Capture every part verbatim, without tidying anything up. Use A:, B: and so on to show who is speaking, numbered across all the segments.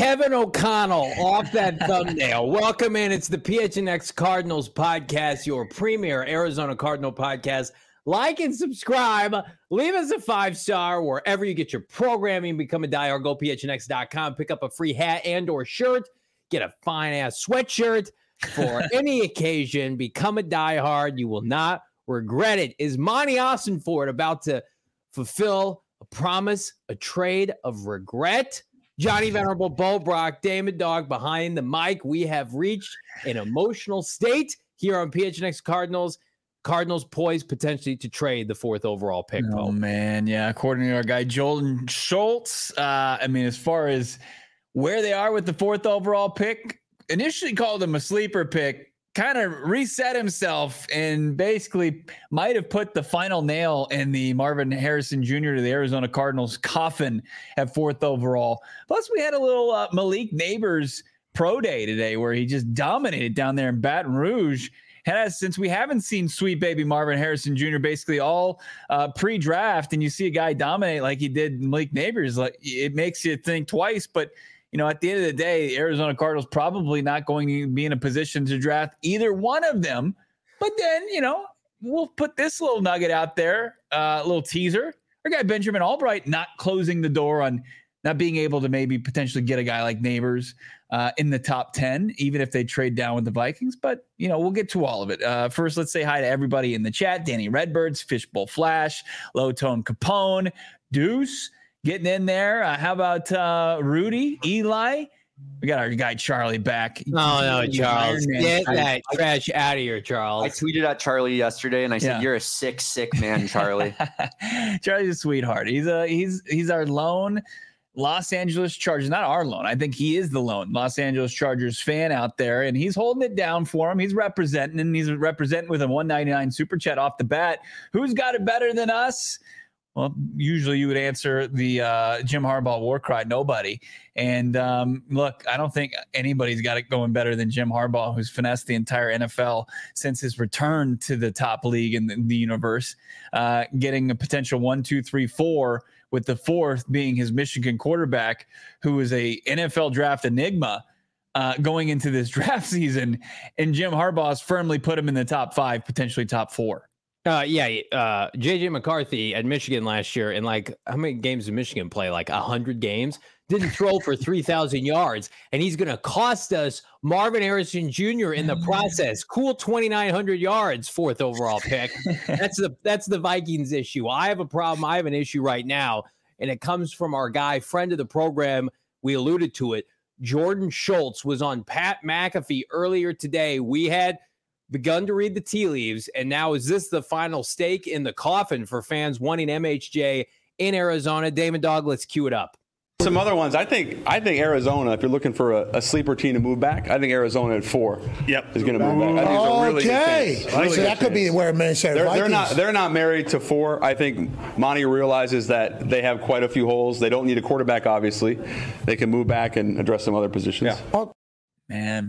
A: Kevin O'Connell off that thumbnail. Welcome in. It's the P H N X Cardinals podcast, your premier Arizona Cardinal podcast. Like and subscribe. Leave us a five-star wherever you get your programming. Become a diehard. Go P H N X dot com. Pick up a free hat and or shirt. Get a fine-ass sweatshirt for any occasion. Become a diehard. You will not regret it. Is Monty Ossenfort about to fulfill a promise, a trade of regret? Johnny Venerable, Bo Brock, Damon Dog behind the mic. We have reached an emotional state here on P H N X Cardinals. Cardinals poised potentially to trade the fourth overall pick.
B: Oh,
A: Bo.
B: man. Yeah. According to our guy, Jordan Schultz, uh, I mean, as far as where they are with the fourth overall pick, initially called him a sleeper pick, kind of reset himself and basically might have put the final nail in the Marvin Harrison Junior to the Arizona Cardinals coffin at fourth overall. Plus, we had a little uh, Malik Neighbors pro day today where he just dominated down there in Baton Rouge. And since we haven't seen sweet baby Marvin Harrison Junior basically all uh, pre-draft, and you see a guy dominate like he did Malik Neighbors, like it makes you think twice. But you know, at the end of the day, Arizona Cardinals probably not going to be in a position to draft either one of them. But then, you know, we'll put this little nugget out there, a uh, little teaser. Our guy Benjamin Albright not closing the door on not being able to maybe potentially get a guy like Neighbors uh, in the top ten, even if they trade down with the Vikings. But, you know, we'll get to all of it. Uh, first, let's say hi to everybody in the chat. Danny Redbirds, Fishbowl Flash, Low Tone Capone, Deuce getting in there. Uh, how about uh, Rudy, Eli? We got our guy Charlie back.
A: No, no, Charles. Get that trash out of here, Charles.
C: I tweeted at Charlie yesterday and I said,
B: Yeah.
C: "You're a sick, sick man, Charlie."
B: Charlie's a sweetheart. He's a he's he's our lone Los Angeles Chargers, not our lone. I think he is the lone Los Angeles Chargers fan out there, and he's holding it down for him. He's representing, and he's representing with a one ninety-nine super chat off the bat. Who's got it better than us? Well, usually you would answer the uh, Jim Harbaugh war cry, nobody. And um, look, I don't think anybody's got it going better than Jim Harbaugh, who's finessed the entire N F L since his return to the top league in the, the universe, uh, getting a potential one, two, three, four, with the fourth being his Michigan quarterback, who is a N F L draft enigma uh, going into this draft season. And Jim Harbaugh's firmly put him in the top five, potentially top four.
A: Uh, yeah, uh, J J McCarthy at Michigan last year, and like how many games did Michigan play? Like a hundred games. Didn't throw for three thousand yards, and he's going to cost us Marvin Harrison Junior in the process. Cool, twenty nine hundred yards, fourth overall pick. That's the that's the Vikings issue. I have a problem. I have an issue right now, and it comes from our guy, friend of the program. We alluded to it. Jordan Schultz was on Pat McAfee earlier today. We had begun to read the tea leaves, and now is this the final stake in the coffin for fans wanting M H J in Arizona? Damon Dog, let's cue it up.
D: Some other ones, I think. I think Arizona. If you're looking for a, a sleeper team to move back, I think Arizona at four.
E: Yep.
D: is going to move back. I think it's a really
F: okay,
D: good really
F: so
D: good
F: that could be
D: chance.
F: where Minnesota
D: They're,
F: Vikings.
D: they're not. They're not married to four. I think Monty realizes that they have quite a few holes. They don't need a quarterback. Obviously, they can move back and address some other positions.
F: Yeah.
B: Man,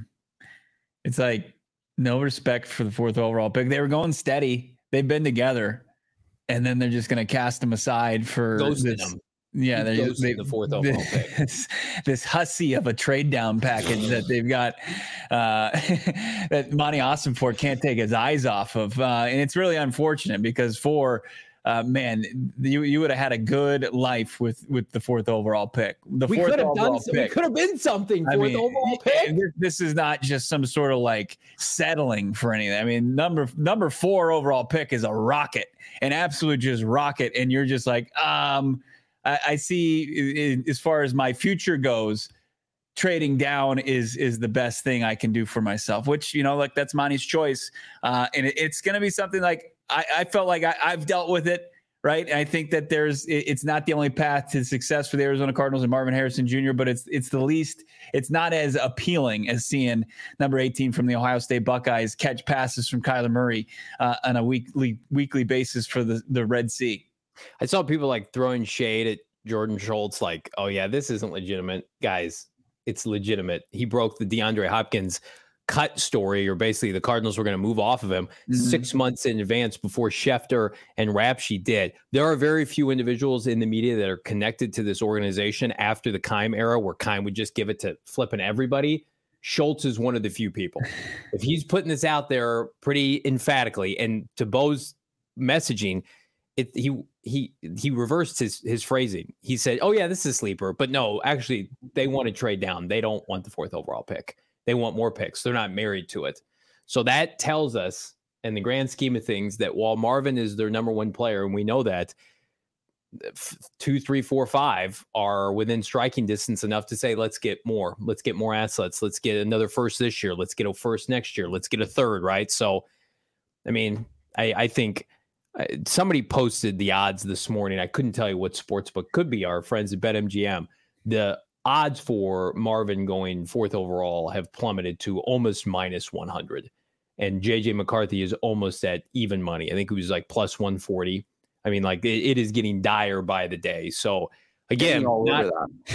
B: it's like no respect for the fourth overall pick. They were going steady. They've been together, and then they're just going to cast them aside for
A: Ghosted
B: this.
A: them.
B: Yeah, they're just, they,
A: the fourth overall pick.
B: This, this hussy of a trade down package that they've got uh, that Monty Ossenfort can't take his eyes off of, uh, and it's really unfortunate because for uh, man, you you would have had a good life with with the fourth overall pick. The
A: We
B: fourth
A: could have done.
B: overall
A: Some,
B: pick.
A: we could have been something. Fourth
B: I mean,
A: overall pick.
B: this- This is not just some sort of like settling for anything. I mean, number number four overall pick is a rocket, an absolute just rocket, and you're just like, um. I see, as far as my future goes, trading down is is the best thing I can do for myself, which, you know, like that's Monty's choice. Uh, and it, it's going to be something like I, I felt like I, I've dealt with it. Right. I think that there's it, it's not the only path to success for the Arizona Cardinals and Marvin Harrison Junior, but it's it's the least it's not as appealing as seeing number eighteen from the Ohio State Buckeyes catch passes from Kyler Murray uh, on a weekly weekly basis for the, the Red Sea.
A: I saw people like throwing shade at Jordan Schultz, like, oh, yeah, this isn't legitimate. Guys, it's legitimate. He broke the DeAndre Hopkins cut story, or basically the Cardinals were going to move off of him mm-hmm. six months in advance before Schefter and Rapshi did. There are very few individuals in the media that are connected to this organization after the Keim era, where Keim would just give it to flipping everybody. Schultz is one of the few people. If he's putting this out there pretty emphatically, and to Bo's messaging, it, he he he reversed his his phrasing. He said, "Oh yeah, this is a sleeper," but no, actually, they want to trade down. They don't want the fourth overall pick. They want more picks. They're not married to it. So that tells us, in the grand scheme of things, that while Marvin is their number one player, and we know that, two, three, four, five are within striking distance enough to say, let's get more. Let's get more assets. Let's get another first this year. Let's get a first next year. Let's get a third, right? So, I mean, I, I think somebody posted the odds this morning. I couldn't tell you what sportsbook, could be our friends at BetMGM. The odds for Marvin going fourth overall have plummeted to almost minus one hundred. And J J McCarthy is almost at even money. I think it was like plus one forty. I mean, like, it, it is getting dire by the day. So, again, not,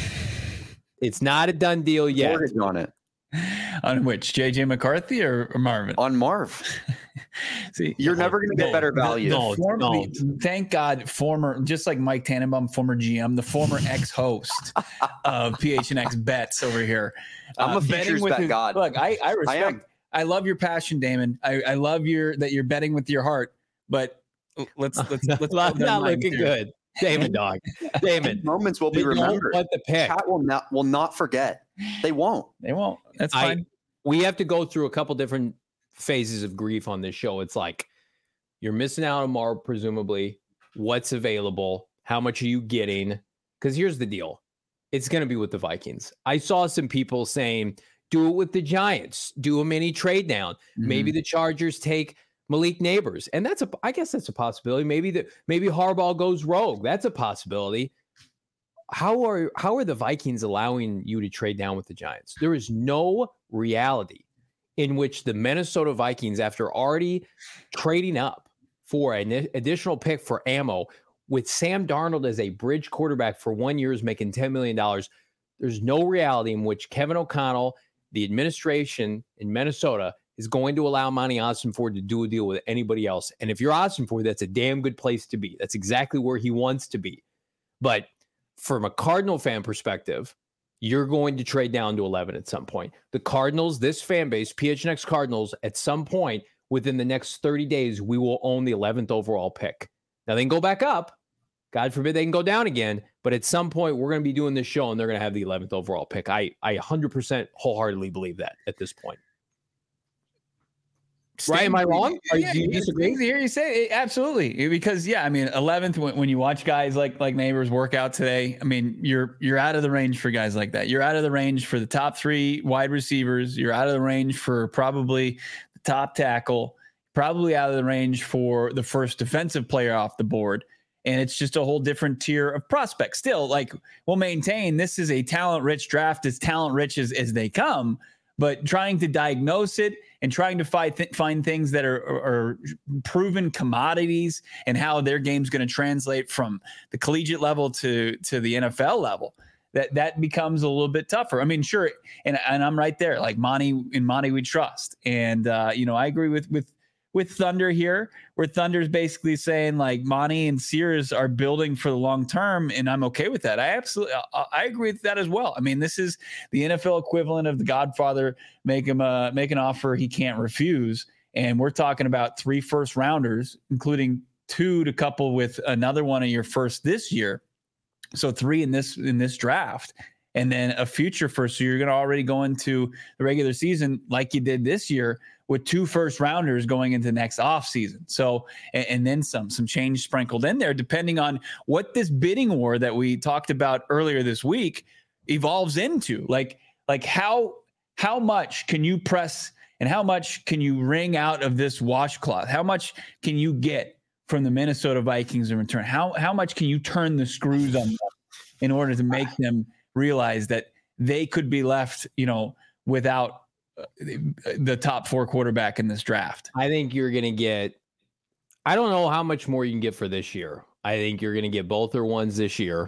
A: it's not a done deal yet.
C: Mortgage on it.
B: On which, J J McCarthy or, or Marvin?
C: On Marv. See, you're never going to get
B: no,
C: better value.
B: The, the
C: no,
B: former,
C: no.
B: Thank God, former, just like Mike Tannenbaum, former G M, the former ex-host of P H N X Bets over here.
C: I'm uh, a futures bet his, god.
B: Look, I, I respect. I, I love your passion, Damon. I, I love your that you're betting with your heart. But let's let's let's
A: not, not looking here. Good, Damon. Dog, Damon.
C: Moments will be remembered.
A: What the pick?
C: Pat will not will not forget. They won't.
B: They won't. That's fine.
A: I, we have to go through a couple different phases of grief on this show. It's like, you're missing out on Marv, presumably. What's available? How much are you getting? Because here's the deal. It's going to be with the Vikings. I saw some people saying, do it with the Giants. Do a mini trade down. Mm-hmm. Maybe the Chargers take Malik Neighbors. And that's a, I guess that's a possibility. Maybe the, maybe Harbaugh goes rogue. That's a possibility. How are, how are the Vikings allowing you to trade down with the Giants? There is no reality in which the Minnesota Vikings, after already trading up for an additional pick for ammo, with Sam Darnold as a bridge quarterback for one year, is making ten million dollars. There's no reality in which Kevin O'Connell, the administration in Minnesota, is going to allow Monty Ossenford to do a deal with anybody else. And if you're Ossenford, that's a damn good place to be. That's exactly where he wants to be. But from a Cardinal fan perspective, you're going to trade down to eleven at some point. The Cardinals, this fan base, P H N X Cardinals, at some point within the next thirty days, we will own the eleventh overall pick. Now, they can go back up. God forbid they can go down again. But at some point, we're going to be doing this show, and they're going to have the eleventh overall pick. I, I one hundred percent wholeheartedly believe that at this point. Right? Am I wrong? Are
B: yeah,
A: you, do you disagree?
B: Hear you say it. Absolutely, because yeah, I mean, eleventh when, when you watch guys like like Neighbors work out today, I mean, you're you're out of the range for guys like that. You're out of the range for the top three wide receivers. You're out of the range for probably the top tackle. Probably out of the range for the first defensive player off the board. And it's just a whole different tier of prospects. Still, like, we'll maintain this is a talent-rich draft, as talent-rich as, as they come. But trying to diagnose it and trying to find, th- find things that are, are, are proven commodities and how their game's going to translate from the collegiate level to, to the N F L level, that that becomes a little bit tougher. I mean, sure, and, and I'm right there. Like, Monty, in Monty we trust. And, uh, you know, I agree with with with Thunder here, where Thunder's basically saying, like, Monty and Sears are building for the long term, and I'm okay with that. I absolutely, I, I agree with that as well. I mean, this is the N F L equivalent of the Godfather, make him uh, make an offer he can't refuse, and we're talking about three first rounders, including two to couple with another one of your first this year, so three in this in this draft, and then a future first. So you're going to already go into the regular season like you did this year, with two first rounders going into next off season. So, and, and then some, some change sprinkled in there, depending on what this bidding war that we talked about earlier this week evolves into. Like, like how, how much can you press and how much can you wring out of this washcloth? How much can you get from the Minnesota Vikings in return? How, how much can you turn the screws on them in order to make them realize that they could be left, you know, without the top four quarterback in this draft?
A: I think you're going to get, I don't know how much more you can get for this year. I think you're going to get both their ones this year.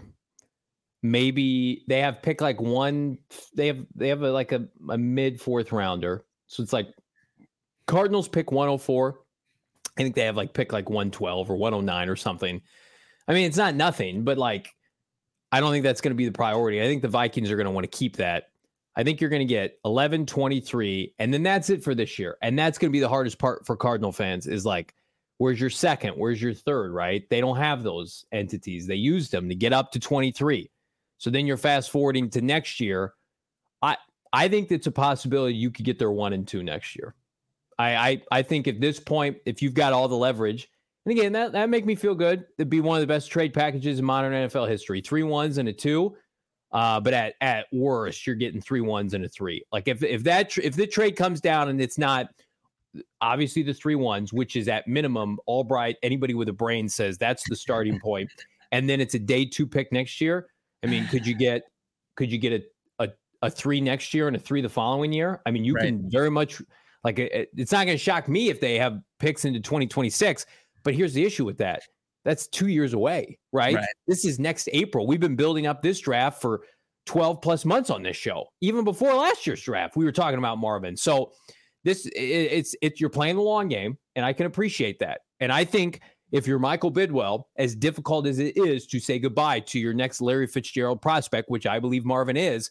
A: Maybe they have pick like one, they have, they have a, like a, a mid fourth rounder. So it's like Cardinals pick one oh four. I think they have like pick like one twelve or one oh nine or something. I mean, it's not nothing, but like, I don't think that's going to be the priority. I think the Vikings are going to want to keep that. I think you're going to get eleven, twenty-three, and then that's it for this year. And that's going to be the hardest part for Cardinal fans is like, where's your second? Where's your third, right? They don't have those entities. They used them to get up to twenty-three. So then you're fast forwarding to next year. I I think it's a possibility you could get their one and two next year. I I, I think at this point, if you've got all the leverage, and again, that that make me feel good. It'd be one of the best trade packages in modern N F L history. Three ones and a two. Uh, but at at worst, you're getting three ones and a three. Like if if that tr- if the trade comes down and it's not obviously the three ones, which is at minimum, Albright, anybody with a brain says that's the starting point, and then it's a day two pick next year. I mean, could you get could you get a a, a three next year and a three the following year? I mean, you right. can very much like it, it's not going to shock me if they have picks into twenty twenty-six. But here's the issue with that. That's two years away, right? right? This is next April. We've been building up this draft for twelve plus months on this show. Even before last year's draft, we were talking about Marvin. So this it, it's it's you're playing the long game, and I can appreciate that. And I think if you're Michael Bidwell, as difficult as it is to say goodbye to your next Larry Fitzgerald prospect, which I believe Marvin is,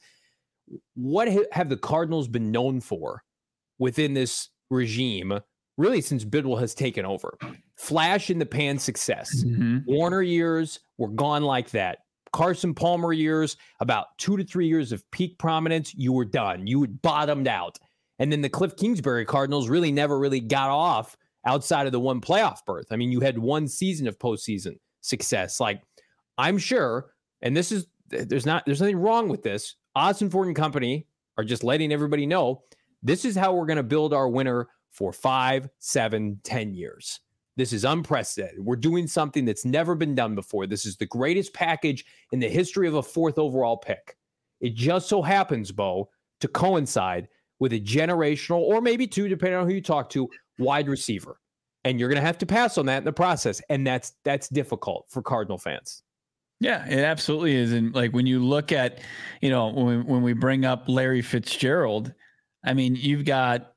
A: what have the Cardinals been known for within this regime, really since Bidwell has taken over? Flash in the pan success. Mm-hmm. Warner years were gone like that. Carson Palmer years, about two to three years of peak prominence, you were done. You had bottomed out. And then the Cliff Kingsbury Cardinals really never really got off outside of the one playoff berth. I mean, you had one season of postseason success. Like, I'm sure, and this is, there's not, there's nothing wrong with this. Austin Ford and Company are just letting everybody know this is how we're going to build our winner for five, seven, ten years. This is unprecedented. We're doing something that's never been done before. This is the greatest package in the history of a fourth overall pick. It just so happens, Bo, to coincide with a generational, or maybe two, depending on who you talk to, wide receiver. And you're going to have to pass on that in the process. And that's that's difficult for Cardinal fans.
B: Yeah, it absolutely is. And like when you look at, you know, when, when we bring up Larry Fitzgerald, I mean, you've got.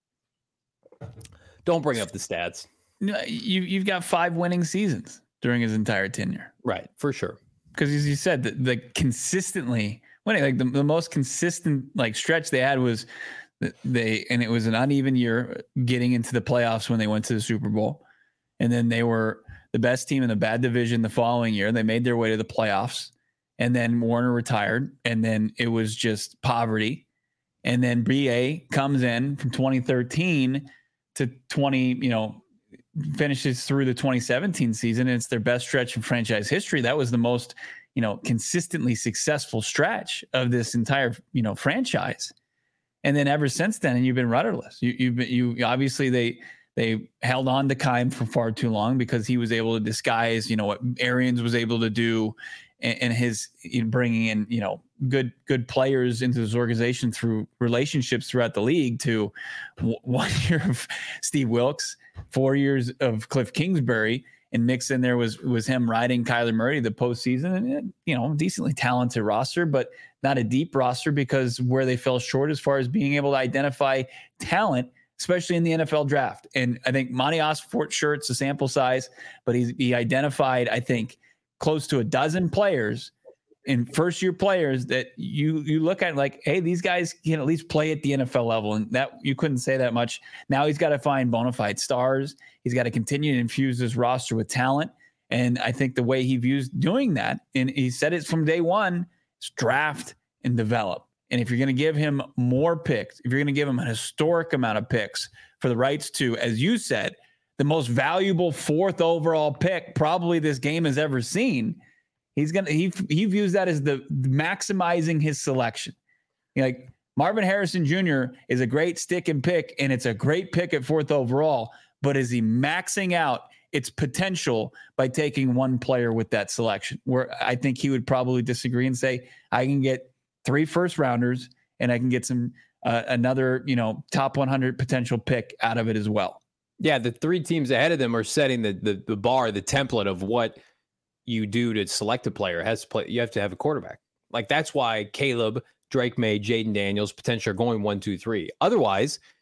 A: Don't bring up the stats.
B: No, you, you've got five winning seasons during his entire tenure.
A: Right, for sure.
B: Because as you said, the, the consistently winning, like the, the most consistent like stretch they had was they, and it was an uneven year getting into the playoffs when they went to the Super Bowl. And then they were the best team in the bad division the following year. They made their way to the playoffs. And then Warner retired. And then it was just poverty. And then B A comes in from twenty thirteen to twenty, you know, finishes through the twenty seventeen season. And it's their best stretch in franchise history. That was the most, you know, consistently successful stretch of this entire, you know, franchise. And then ever since then, and you've been rudderless. You, you've been, you obviously they, they held on to Keim for far too long because he was able to disguise, you know, what Arians was able to do and, and his in bringing in, you know, good, good players into this organization through relationships throughout the league to w- one year of Steve Wilkes, four years of Cliff Kingsbury, and mixed in there was, was him riding Kyler Murray the postseason, and, you know, decently talented roster, but not a deep roster because where they fell short as far as being able to identify talent, especially in the N F L draft. And I think Monty Osfort, sure, it's a sample size, but he, he identified, I think, close to a dozen players in first year players that you, you look at like, hey, these guys can at least play at the N F L level. And that you couldn't say that much. Now he's got to find bona fide stars. He's got to continue to infuse his roster with talent. And I think the way he views doing that, and he said it from day one, is draft and develop. And if you're going to give him more picks, if you're going to give him a historic amount of picks for the rights to, as you said, the most valuable fourth overall pick probably this game has ever seen, he's going to, he, he views that as the maximizing his selection. You know, like Marvin Harrison Junior is a great stick and pick, and it's a great pick at fourth overall, but is he maxing out its potential by taking one player with that selection? Where I think he would probably disagree and say, I can get three first rounders and I can get some, uh, another, you know, top one hundred potential pick out of it as well.
A: Yeah. The three teams ahead of them are setting the, the, the bar, the template of what you do to select a player. It has to play. You have to have a quarterback. Like that's why Caleb, Drake May, Jaden Daniels potentially are going one, two, three. Otherwise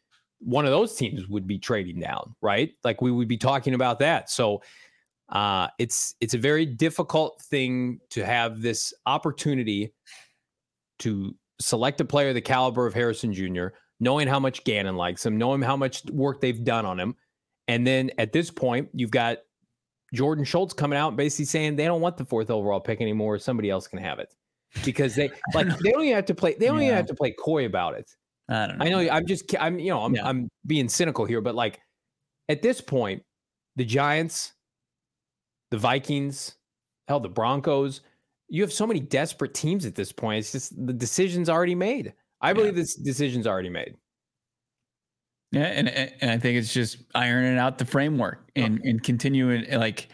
A: one of those teams would be trading down, right? Like we would be talking about that. So uh, it's it's a very difficult thing to have this opportunity to select a player the caliber of Harrison Junior, knowing how much Gannon likes him, knowing how much work they've done on him. And then at this point, you've got Jordan Schultz coming out and basically saying they don't want the fourth overall pick anymore. Somebody else can have it because they like they don't even have to play. They don't yeah. even have to play coy about it.
B: I don't know.
A: I know I'm just I'm you know I'm yeah. I'm being cynical here, but like at this point, the Giants, the Vikings, hell, the Broncos. You have so many desperate teams at this point. It's just the decision's already made. I believe yeah. this decision's already made.
B: Yeah, and and I think it's just ironing out the framework and, okay. and continuing like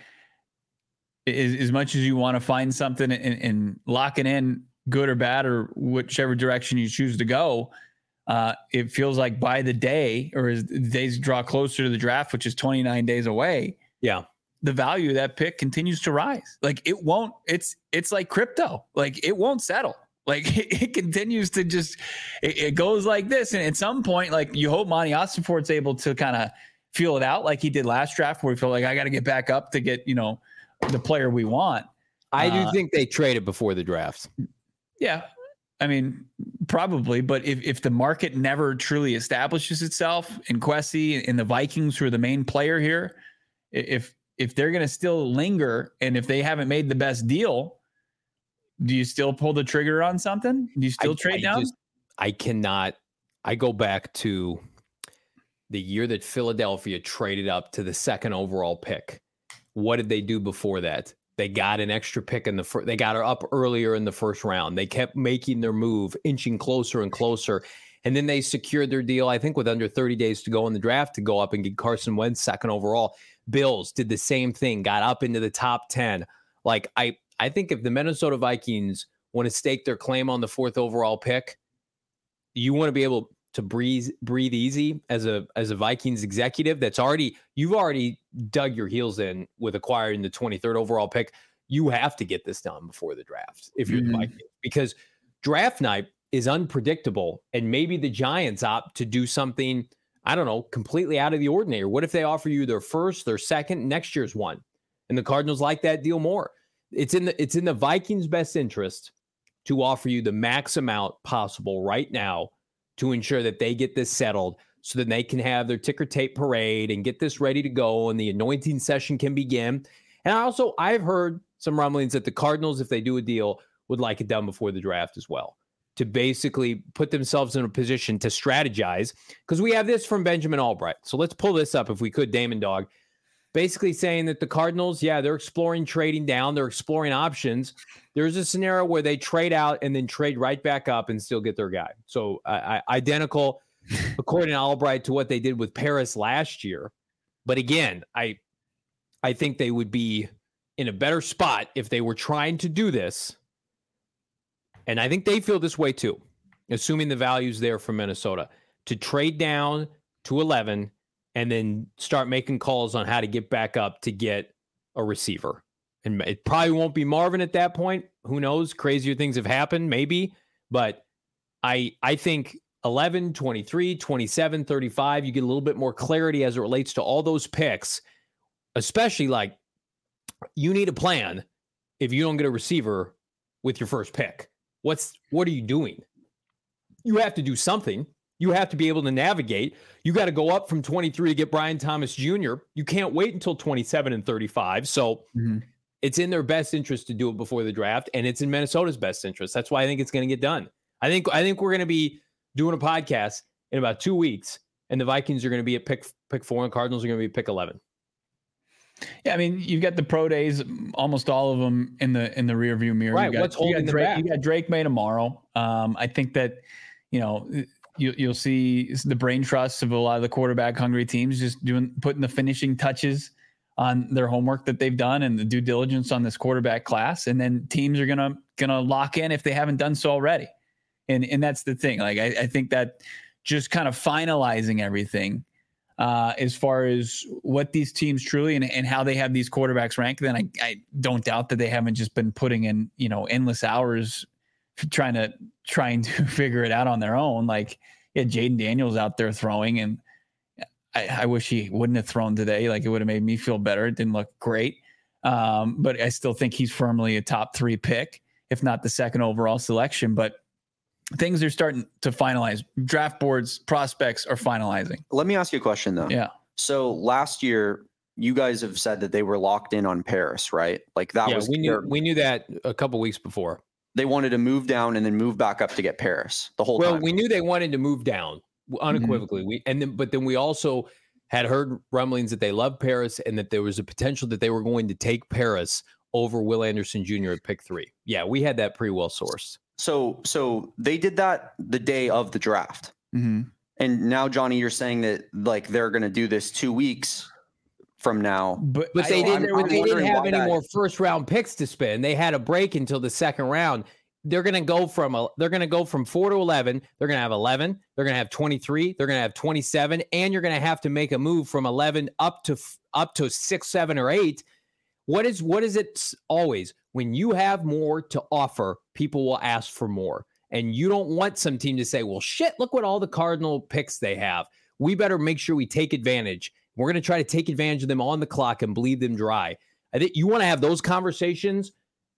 B: as, as much as you want to find something and, and lock it in, good or bad, or whichever direction you choose to go. Uh, it feels like by the day, or as the days draw closer to the draft, which is twenty-nine days away. Yeah. The value of that pick continues to rise. Like it won't, it's, it's like crypto. Like it won't settle. Like it, it continues to just, it, it goes like this. And at some point, like you hope Monty Ossenfort's able to kind of feel it out like he did last draft, where he felt like I got to get back up to get, you know, the player we want.
A: I do uh, think they traded before the draft.
B: Yeah. I mean, probably, but if, if the market never truly establishes itself in Kwesi and the Vikings, who are the main player here, if, if they're going to still linger and if they haven't made the best deal, do you still pull the trigger on something? Do you still I, trade I down? Just,
A: I cannot. I go back to the year that Philadelphia traded up to the second overall pick. What did they do before that? They got an extra pick in the first. They got her up earlier in the first round. They kept making their move, inching closer and closer. And then they secured their deal, I think, with under thirty days to go in the draft to go up and get Carson Wentz second overall. Bills did the same thing, got up into the top ten. Like, I, I think if the Minnesota Vikings want to stake their claim on the fourth overall pick, you want to be able to breathe breathe easy as a as a Vikings executive that's already, you've already dug your heels in with acquiring the twenty-third overall pick. You have to get this done before the draft if you're mm-hmm. the Vikings, because draft night is unpredictable, and maybe the Giants opt to do something, I don't know, completely out of the ordinary. What if they offer you their first, their second, next year's one, and the Cardinals like that deal more? It's in the it's in the Vikings' best interest to offer you the max amount possible right now to ensure that they get this settled, so that they can have their ticker tape parade and get this ready to go, and the anointing session can begin. And also, I've heard some rumblings that the Cardinals, if they do a deal, would like it done before the draft as well, to basically put themselves in a position to strategize. Because we have this from Benjamin Albright. So let's pull this up if we could, Damon Dog. Basically saying that the Cardinals, yeah, they're exploring trading down. They're exploring options. There's a scenario where they trade out and then trade right back up and still get their guy. So uh, identical, according to Albright, to what they did with Paris last year. But again, I, I think they would be in a better spot if they were trying to do this. And I think they feel this way too, assuming the value's there for Minnesota, to trade down to eleven and then start making calls on how to get back up to get a receiver. And it probably won't be Marvin at that point. Who knows? Crazier things have happened, maybe. But I I think eleven, twenty-three, twenty-seven, thirty-five, you get a little bit more clarity as it relates to all those picks, especially like you need a plan if you don't get a receiver with your first pick. What's what are you doing? You have to do something. You have to be able to navigate. You got to go up from twenty-three to get Brian Thomas Junior You can't wait until twenty-seven and thirty-five. So mm-hmm. it's in their best interest to do it before the draft, and it's in Minnesota's best interest. That's why I think it's going to get done. I think I think we're going to be doing a podcast in about two weeks, and the Vikings are going to be at pick pick four, and Cardinals are going to be at pick eleven.
B: Yeah, I mean, you've got the pro days, almost all of them in the in the rearview mirror.
A: Right.
B: You got,
A: What's holding
B: you got
A: them
B: Drake,
A: back?
B: You got Drake May tomorrow. Um, I think that, you know, you, you'll see the brain trusts of a lot of the quarterback hungry teams just doing putting the finishing touches on their homework that they've done and the due diligence on this quarterback class, and then teams are gonna gonna lock in if they haven't done so already. And and that's the thing. Like I, I think that just kind of finalizing everything. Uh, as far as what these teams truly and, and how they have these quarterbacks ranked, then I, I don't doubt that they haven't just been putting in, you know, endless hours trying to trying to figure it out on their own. Like, yeah, Jaden Daniels out there throwing, and I, I wish he wouldn't have thrown today. Like it would have made me feel better. It didn't look great. Um, but I still think he's firmly a top three pick, if not the second overall selection. But things are starting to finalize. Draft boards, prospects are finalizing.
C: Let me ask you a question though.
B: Yeah.
C: So last year, you guys have said that they were locked in on Paris, right? Like that
A: yeah,
C: was
A: we knew
C: their,
A: we knew that a couple weeks before.
C: They wanted to move down and then move back up to get Paris the whole
A: well,
C: time.
A: Well, we knew they wanted to move down unequivocally. Mm-hmm. We and then but then we also had heard rumblings that they loved Paris and that there was a potential that they were going to take Paris over Will Anderson Junior at pick three. Yeah, we had that pretty well sourced.
C: So so they did that the day of the draft.
B: Mm-hmm.
C: And now, Johnny, you're saying that like they're going to do this two weeks from now.
A: But but they didn't, I'm, I'm they didn't have any that... more first round picks to spend. They had a break until the second round. They're going to go from a, they're going to go from four to eleven. They're going to have eleven. They're going to have twenty-three. They're going to have twenty-seven, and you're going to have to make a move from eleven up to up to six, seven, or eight. What is what is it always when you have more to offer? People will ask for more, and you don't want some team to say, "Well, shit, look what all the Cardinal picks they have. We better make sure we take advantage. We're going to try to take advantage of them on the clock and bleed them dry." I think you want to have those conversations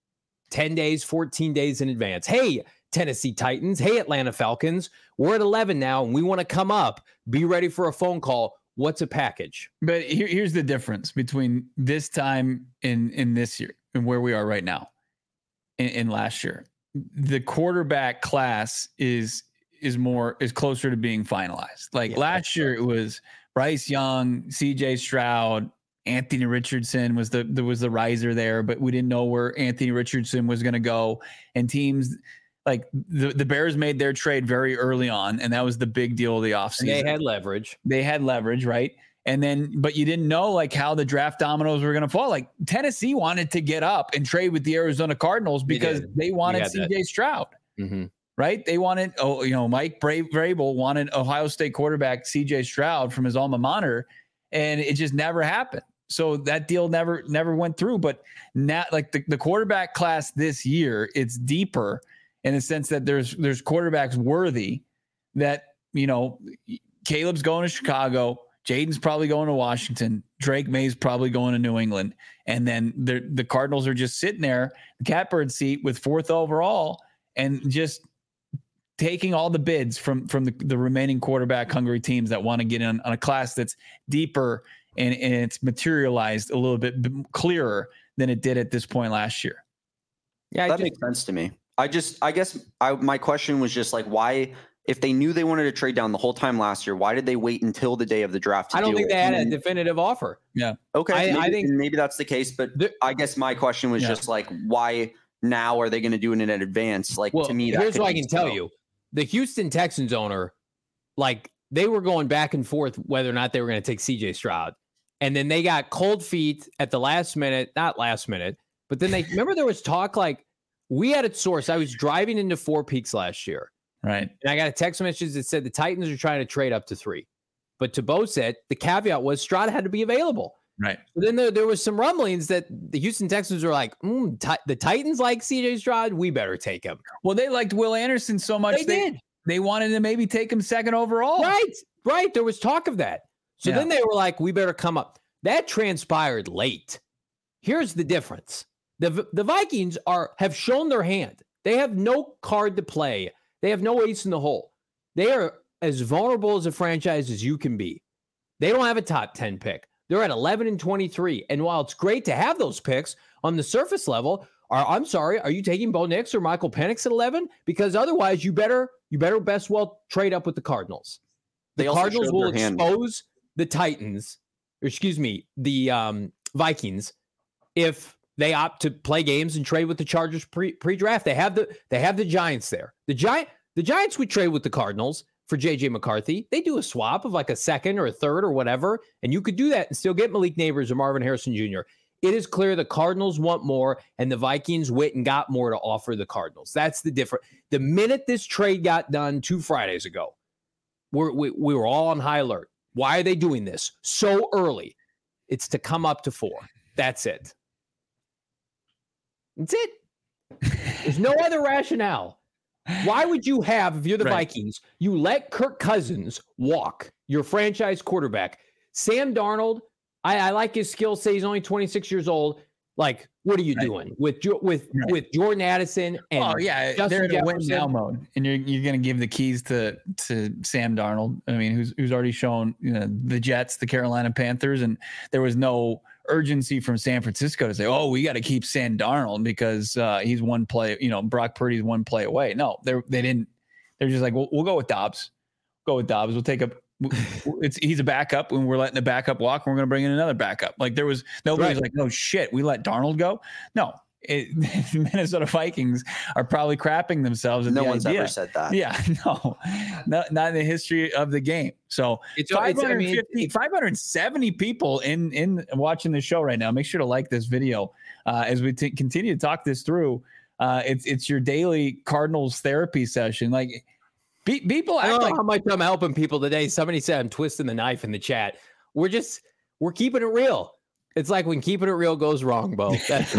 A: ten days, fourteen days in advance. Hey, Tennessee Titans. Hey, Atlanta Falcons. We're at eleven now, and we want to come up. Be ready for a phone call. What's a package?
B: But here, here's the difference between this time in, in this year and where we are right now in, in last year. The quarterback class is is more is closer to being finalized. Like yeah, last year, right. It was Bryce Young, C J Stroud, Anthony Richardson was the there was the riser there, but we didn't know where Anthony Richardson was going to go. And teams like the, the Bears made their trade very early on, and that was the big deal of the offseason.
A: And they had leverage.
B: They had leverage, right? And then, but you didn't know like how the draft dominoes were going to fall. Like Tennessee wanted to get up and trade with the Arizona Cardinals because they wanted C J Stroud,
A: mm-hmm.
B: right? They wanted, oh, you know, Mike Bra- Vrabel wanted Ohio State quarterback C J Stroud from his alma mater, and it just never happened. So that deal never, never went through. But now, like the, the quarterback class this year, it's deeper in the sense that there's there's quarterbacks worthy that, you know, Caleb's going to Chicago. Jaden's probably going to Washington. Drake May's probably going to New England. And then the the Cardinals are just sitting there, the catbird seat with fourth overall and just taking all the bids from, from the, the remaining quarterback hungry teams that want to get in on a class that's deeper and, and it's materialized a little bit clearer than it did at this point last year.
C: Yeah, that just, makes sense to me. I just, I guess I, my question was just like, why, if they knew they wanted to trade down the whole time last year, why did they wait until the day of the draft? To
A: I don't
C: do
A: think
C: it?
A: they had
C: and
A: a definitive offer.
B: Yeah.
C: Okay.
A: I,
C: maybe,
A: I think
C: maybe that's the case, but the, I guess my question was yeah. just like, why now are they going to do it in advance? Like
A: well,
C: to me, that
A: here's what I can
C: so.
A: tell you. The Houston Texans owner, like they were going back and forth whether or not they were going to take C J Stroud. And then they got cold feet at the last minute, not last minute, but then they remember there was talk like we had a source. I was driving into Four Peaks last year.
B: Right.
A: And I got a text message that said the Titans are trying to trade up to three. But to Bo said the caveat was Stroud had to be available.
B: Right.
A: So then there, there was some rumblings that the Houston Texans were like, mm, t- the Titans like C J Stroud. We better take him.
B: Well, they liked Will Anderson so much.
A: They,
B: they
A: did.
B: They wanted to maybe take him second overall.
A: Right. Right. There was talk of that. So yeah. then they were like, we better come up. That transpired late. Here's the difference. The, the Vikings are have shown their hand. They have no card to play. They have no ace in the hole. They are as vulnerable as a franchise as you can be. They don't have a top ten pick. They're at eleven and twenty-three. And while it's great to have those picks on the surface level, are, I'm sorry, are you taking Bo Nix or Michael Penix at eleven? Because otherwise you better you better best well trade up with the Cardinals. The Cardinals will expose the Titans, or excuse me, the um, Vikings if they opt to play games and trade with the Chargers pre pre-draft. They have the they have the Giants there. The Giant the Giants would trade with the Cardinals for J J McCarthy. They do a swap of like a second or a third or whatever, and you could do that and still get Malik Neighbors or Marvin Harrison Junior It is clear the Cardinals want more, and the Vikings went and got more to offer the Cardinals. That's the difference. The minute this trade got done two Fridays ago, we're, we we were all on high alert. Why are they doing this so early? It's to come up to four. That's it. That's it. There's no other rationale. Why would you have, if you're the right. Vikings, you let Kirk Cousins walk. your franchise quarterback. Sam Darnold, I, I like his skill set. He's only twenty-six years old. Like, what are you right. doing with with right. with Jordan Addison and
B: oh yeah,
A: Justin
B: they're in a win
A: Jefferson?
B: now mode, and you're you're going to give the keys to to Sam Darnold. I mean, who's who's already shown you know the Jets, the Carolina Panthers, and there was no urgency from San Francisco to say, oh, we got to keep Sam Darnold because uh, he's one play. You know, Brock Purdy's one play away. No, they they didn't. They're just like, we'll, we'll go with Dobbs. Go with Dobbs. We'll take a. It's he's a backup when we're letting the backup walk and we're going to bring in another backup. Like there was nobody's right. like, no shit, we let Darnold go. No, it, the Minnesota Vikings are probably crapping themselves.
C: No
B: the
C: one's
B: idea.
C: ever said that.
B: Yeah, no, not, not in the history of the game. So it's five hundred fifty, I mean, five hundred seventy people in, in watching the show right now. Make sure to like this video uh, as we t- continue to talk this through. Uh, it's, it's your daily Cardinals therapy session. Like, People act
A: I don't know
B: like
A: how much I'm helping people today. Somebody said I'm twisting the knife in the chat. We're just we're keeping it real. It's like when keeping it real goes wrong, Bo. That's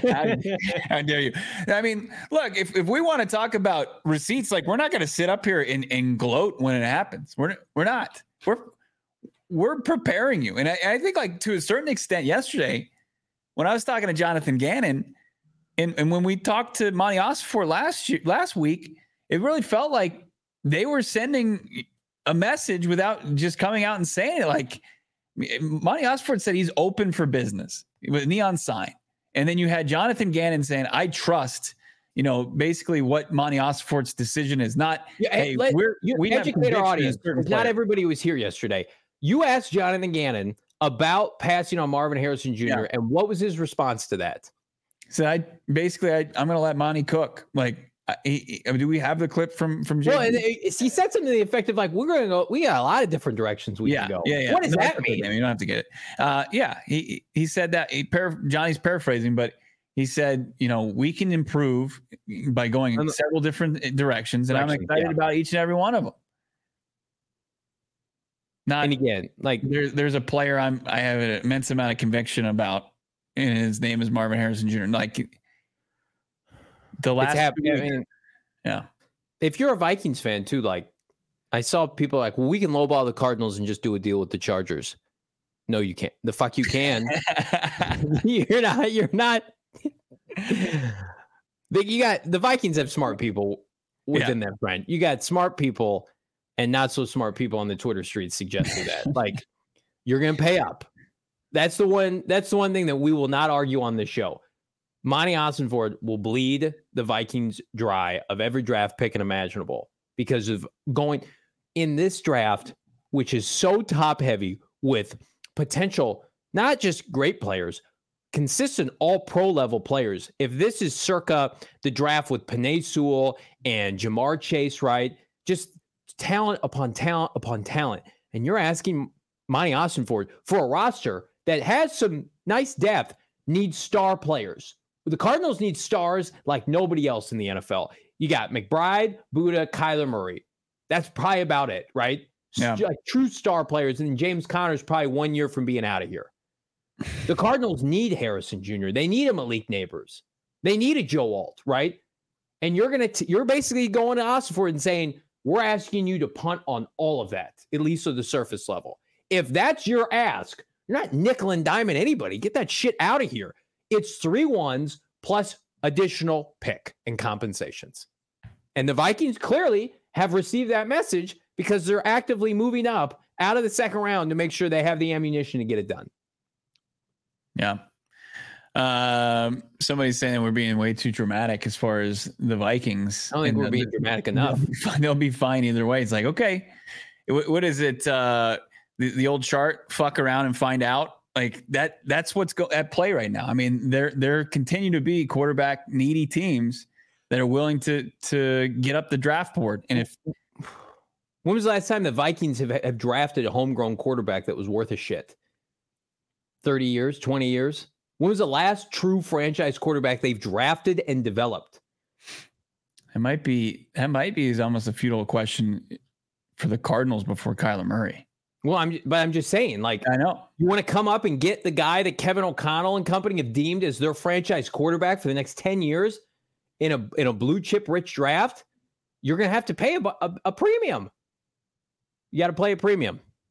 B: How dare you? I mean, look, if, if we want to talk about receipts, like we're not going to sit up here and, and gloat when it happens. We're we're not. We're we're preparing you. And I, I think like to a certain extent yesterday, when I was talking to Jonathan Gannon, and, and when we talked to Monty Ossenfort last year, last week, it really felt like they were sending a message without just coming out and saying it. Like Monty Ossenfort said he's open for business with neon sign. And then you had Jonathan Gannon saying, I trust, you know, basically what Monty Ossenfort's decision is. Not,
A: yeah,
B: hey,
A: let,
B: we're, we
A: educate our audience. Not everybody was here yesterday. You asked Jonathan Gannon about passing on Marvin Harrison Junior Yeah. And what was his response to that?
B: So I basically, I, I'm going to let Monty cook. Like, Uh, he, he, do we have the clip from from Jay?
A: Well, and it, he said something to the effect of like, "We're going to go. We got a lot of different directions we
B: yeah,
A: can go."
B: Yeah, yeah.
A: What does
B: no,
A: that mean?
B: You don't have to get it. Uh, yeah, he he said that. He par- Johnny's paraphrasing, but he said, you know, we can improve by going in several different directions, and I'm excited yeah. about each and every one of them. Not
A: and again, like
B: there's there's a player I'm I have an immense amount of conviction about, and his name is Marvin Harrison Junior Like. The last,
A: I mean,
B: yeah.
A: If you're a Vikings fan too, like I saw people like, well, we can lowball the Cardinals and just do a deal with the Chargers. No, you can't. The fuck you can. you're not. You're not. You got the Vikings have smart people within yeah. that brand. You got smart people and not so smart people on the Twitter streets suggesting that. Like you're gonna pay up. That's the one. That's the one thing that we will not argue on this show. Monty Ossenfort will bleed the Vikings dry of every draft pick and imaginable because of going in this draft, which is so top heavy with potential, not just great players, consistent all pro level players. If this is circa the draft with Penei Sewell and Jamar Chase, right? Just talent upon talent upon talent. And you're asking Monty Ossenfort for a roster that has some nice depth, needs star players. The Cardinals need stars like nobody else in the N F L. You got McBride, Buddha, Kyler Murray. That's probably about it, right?
B: Yeah.
A: Like true star players. And James Conner's probably one year from being out of here. The Cardinals need Harrison Junior They need a Malik Neighbors. They need a Joe Alt, right? And you're gonna t- you're basically going to Ossenfort and saying, we're asking you to punt on all of that, at least at the surface level. If that's your ask, you're not nickel and diming anybody. Get that shit out of here. It's three ones plus additional pick and compensations. And the Vikings clearly have received that message because they're actively moving up out of the second round to make sure they have the ammunition to get it done.
B: Yeah. Um, somebody's saying we're being way too dramatic as far as the Vikings.
A: I don't think
B: and
A: we're
B: the,
A: being dramatic enough.
B: They'll be, they'll be fine either way. It's like, okay, what, what is it? Uh, the, the old chart, fuck around and find out. Like that, that's what's go at play right now. I mean, there, there continue to be quarterback needy teams that are willing to, to get up the draft board. And if,
A: when was the last time the Vikings have, have drafted a homegrown quarterback that was worth a shit? thirty years, twenty years. When was the last true franchise quarterback they've drafted and developed?
B: It might be, that might be is almost a futile question for the Cardinals before Kyler Murray.
A: Well, I'm, but I'm just saying, like,
B: I know
A: you want to come up and get the guy that Kevin O'Connell and company have deemed as their franchise quarterback for the next ten years in a in a blue chip rich draft. You're going to have to pay a, a, a premium. You got to play a premium.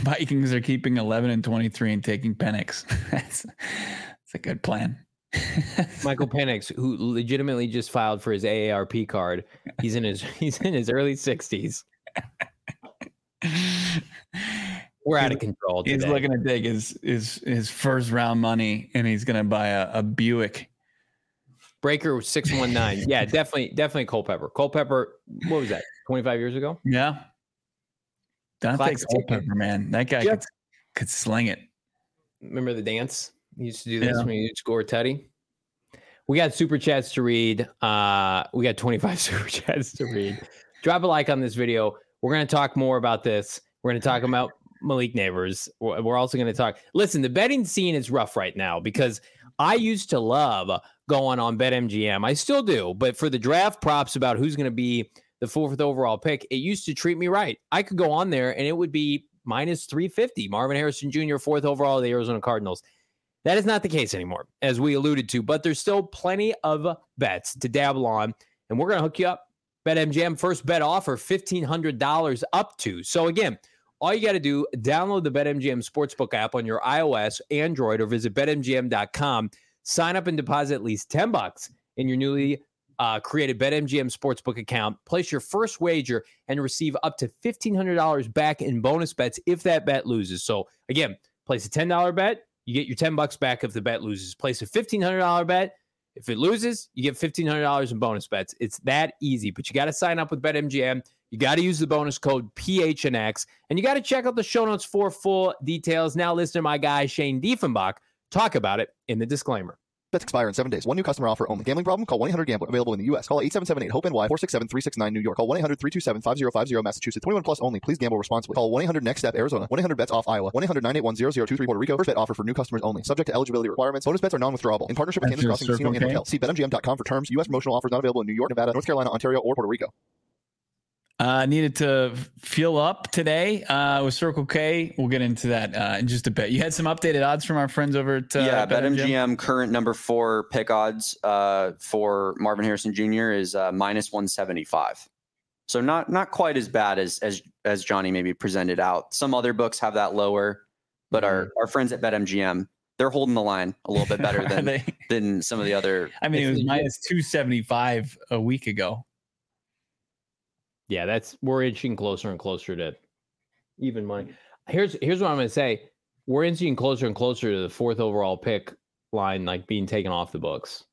B: Vikings are keeping eleven and twenty-three and taking Penix. That's, that's a good plan.
A: Michael Penix, who legitimately just filed for his A A R P card. He's in his he's in his early sixties. We're out of control today.
B: He's looking to take his his his first round money, and he's going to buy a, a Buick.
A: Breaker six one nine. Yeah, definitely, definitely Culpepper. Culpepper, what was that? twenty-five years ago?
B: Yeah. Dante Culpepper, man. That guy
A: Yep.
B: could, could sling it.
A: Remember the dance? He used to do this
B: Yeah.
A: when he score Teddy. We got super chats to read. Uh, we got twenty-five super chats to read. Drop a like on this video. We're going to talk more about this. We're going to talk about Malik Neighbors. We're also going to talk. Listen, the betting scene is rough right now because I used to love going on BetMGM. I still do. But for the draft props about who's going to be the fourth overall pick, it used to treat me right. I could go on there and it would be minus three fifty. Marvin Harrison Junior, fourth overall of the Arizona Cardinals. That is not the case anymore, as we alluded to, but there's still plenty of bets to dabble on, and we're going to hook you up. BetMGM first bet offer, fifteen hundred dollars up to. So again, all you got to do, download the BetMGM Sportsbook app on your iOS, Android, or visit bet M G M dot com. Sign up and deposit at least ten bucks in your newly uh, created BetMGM Sportsbook account. Place your first wager and receive up to fifteen hundred dollars back in bonus bets if that bet loses. So again, place a ten dollar bet. You get your ten bucks back if the bet loses. Place a fifteen hundred dollars bet. If it loses, you get fifteen hundred dollars in bonus bets. It's that easy, but you got to sign up with BetMGM. You got to use the bonus code P H N X, and you got to check out the show notes for full details. Now listen to my guy, Shane Diefenbach, talk about it in the disclaimer.
E: Bets expire in seven days. One new customer offer only. Gambling problem? Call one eight hundred gambler. Available in the U S. Call eight seven seven eight hope N Y four six seven three six nine New York. Call one eight hundred three two seven five zero five zero Massachusetts. twenty-one plus only. Please gamble responsibly. Call one eight hundred next step Arizona. one eight hundred bets off Iowa. one eight hundred nine eight one zero zero two three Puerto Rico. First bet offer for new customers only. Subject to eligibility requirements. Bonus bets are non-withdrawable. In partnership with
B: That's
E: Kansas
B: your
E: Crossing Casino
B: Circle
E: and
B: K?
E: Hotel. See bet M G M dot com for terms. U S promotional offers not available in New York, Nevada, North Carolina, Ontario, or Puerto Rico.
B: Uh, needed to feel up today uh, with Circle K. We'll get into that uh, in just a bit. You had some updated odds from our friends over at uh,
C: yeah,
B: BetMGM?
C: BetMGM current number four pick odds uh, for Marvin Harrison Junior is uh, minus one seventy-five. So not not quite as bad as as as Johnny maybe presented out. Some other books have that lower, but
B: Mm-hmm.
C: our our friends at BetMGM, they're holding the line a little bit better than
B: They-
C: than some of the other.
B: I mean, it was minus two seventy-five a week ago.
A: Yeah, that's we're inching closer and closer to even money. Here's here's what I'm going to say: we're inching closer and closer to the fourth overall pick line, like being taken off the books.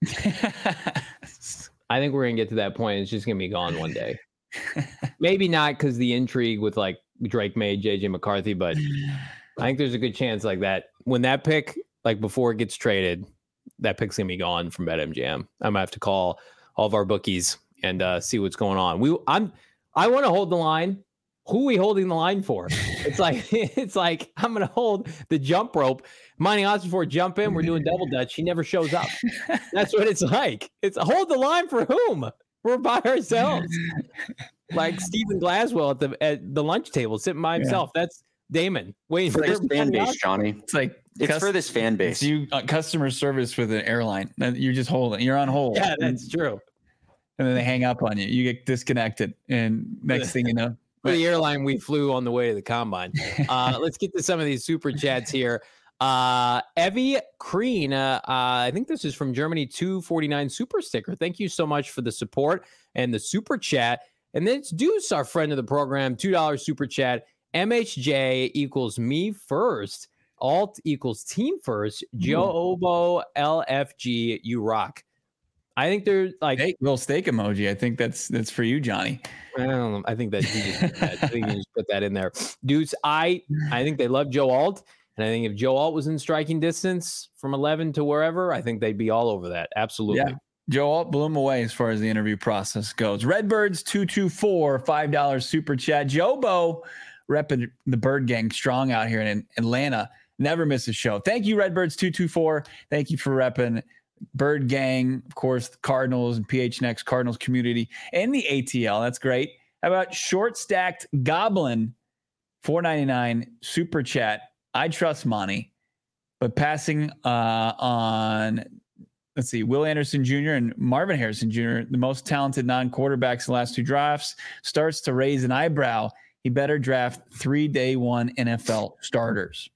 A: I think we're going to get to that point. It's just going to be gone one day. Maybe not because the intrigue with like Drake May, J J McCarthy, but I think there's a good chance like that when that pick, like before it gets traded, that pick's going to be gone from BetMGM. I'm going to have to call all of our bookies and uh, see what's going on. We I'm. I want to hold the line. Who are we holding the line for? It's like it's like I'm going to hold the jump rope. Mining odds before jump in. We're doing double dutch. He never shows up. That's what it's like. It's hold the line for whom? We're by ourselves. Like Stephen Glaswell at the at the lunch table sitting by himself. Yeah. That's Damon waiting
C: for
A: for
C: this fan base, Johnny.
B: It's like
C: it's cus- for this fan base.
B: It's you uh, customer service with an airline. You're just holding. You're on hold.
A: Yeah, that's true.
B: And then they hang up on you. You get disconnected, and next thing you know,
A: for the airline we flew on the way to the combine. Uh, let's get to some of these super chats here. Uh, Evie Kreen, uh, uh, I think this is from Germany. two forty-nine super sticker. Thank you so much for the support and the super chat. And then it's Deuce, our friend of the program, two dollars super chat. M H J equals me first. Alt equals team first. Joe Obo L F G. You rock. I think they're like
B: hey, little steak emoji. I think that's that's for you, Johnny.
A: I don't know. I think that, that I think you just put that in there, dudes. I I think they love Joe Alt, and I think if Joe Alt was in striking distance from eleven to wherever, I think they'd be all over that. Absolutely.
B: Yeah. Joe Alt blew him away as far as the interview process goes. Redbirds two two four, five dollars super chat. Jobo repping the Bird Gang strong out here in Atlanta. Never miss a show. Thank you, Redbirds two two four. Thank you for repping Bird Gang, of course, the Cardinals and P H N X Cardinals community and the A T L. That's great. How about Short Stacked Goblin, four ninety-nine super chat. I trust Monty, but passing uh, on, let's see, Will Anderson Junior and Marvin Harrison Junior, the most talented non-quarterbacks in the last two drafts, starts to raise an eyebrow. he better draft three day one N F L starters.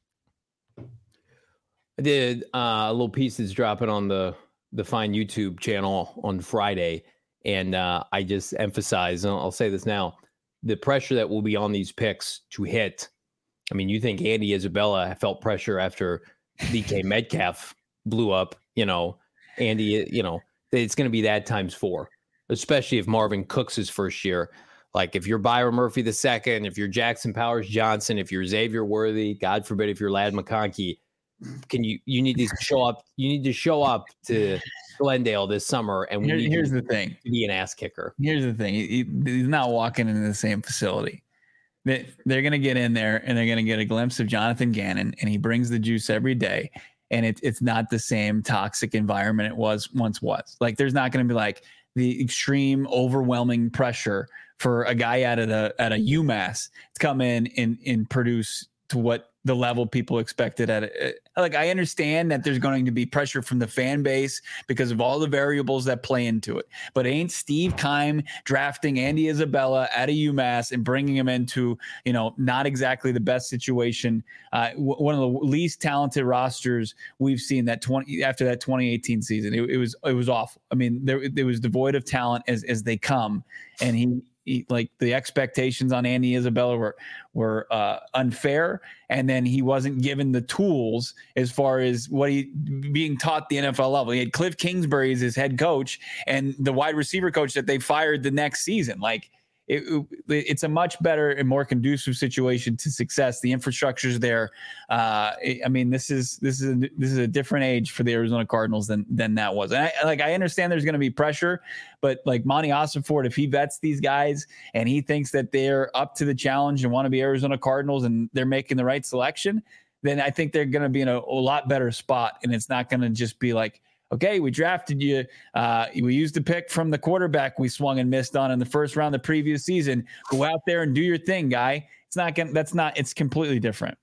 A: I did uh, a little piece that's dropping on the the Fine YouTube channel on Friday, and uh, I just emphasize, and I'll say this now, the pressure that will be on these picks to hit. I mean, you think Andy Isabella felt pressure after D K Metcalf blew up, you know, Andy, you know, it's going to be that times four, especially if Marvin Cooks his first year. Like if you're Byron Murphy the second, if you're Jackson Powers Johnson, if you're Xavier Worthy, God forbid, if you're Ladd McConkey, can you, you need to show up, you need to show up to Glendale this summer. And we
B: Here,
A: need
B: here's
A: to
B: the thing.
A: be an ass kicker.
B: Here's the thing. He, he's not walking into the same facility. They, they're going to get in there and they're going to get a glimpse of Jonathan Gannon, and he brings the juice every day. And it, it's not the same toxic environment it was once was. Like there's not going to be like the extreme overwhelming pressure for a guy out of the at a UMass to come in and, and produce to what the level people expected at it. Like I understand that there's going to be pressure from the fan base because of all the variables that play into it. But ain't Steve Keim drafting Andy Isabella out of UMass and bringing him into, you know, not exactly the best situation. Uh, w- one of the least talented rosters we've seen that twenty after that twenty eighteen season. It, it was it was awful. I mean, there it was devoid of talent as as they come, and he. He, like the expectations on Andy Isabella were were uh, unfair, and then he wasn't given the tools as far as what he being taught the N F L level. He had Cliff Kingsbury as his head coach and the wide receiver coach that they fired the next season. Like it, it, it's a much better and more conducive situation to success. The infrastructure's there. Uh, I mean, this is this is a, this is a different age for the Arizona Cardinals than than that was. And I, like I understand there's going to be pressure, but like Monty Ossenfort, if he vets these guys and he thinks that they're up to the challenge and want to be Arizona Cardinals and they're making the right selection, then I think they're going to be in a, a lot better spot. And it's not going to just be like, okay, we drafted you. Uh, we used the pick from the quarterback we swung and missed on in the first round the previous season. Go out there and do your thing, guy. It's not going. That's not. It's completely different.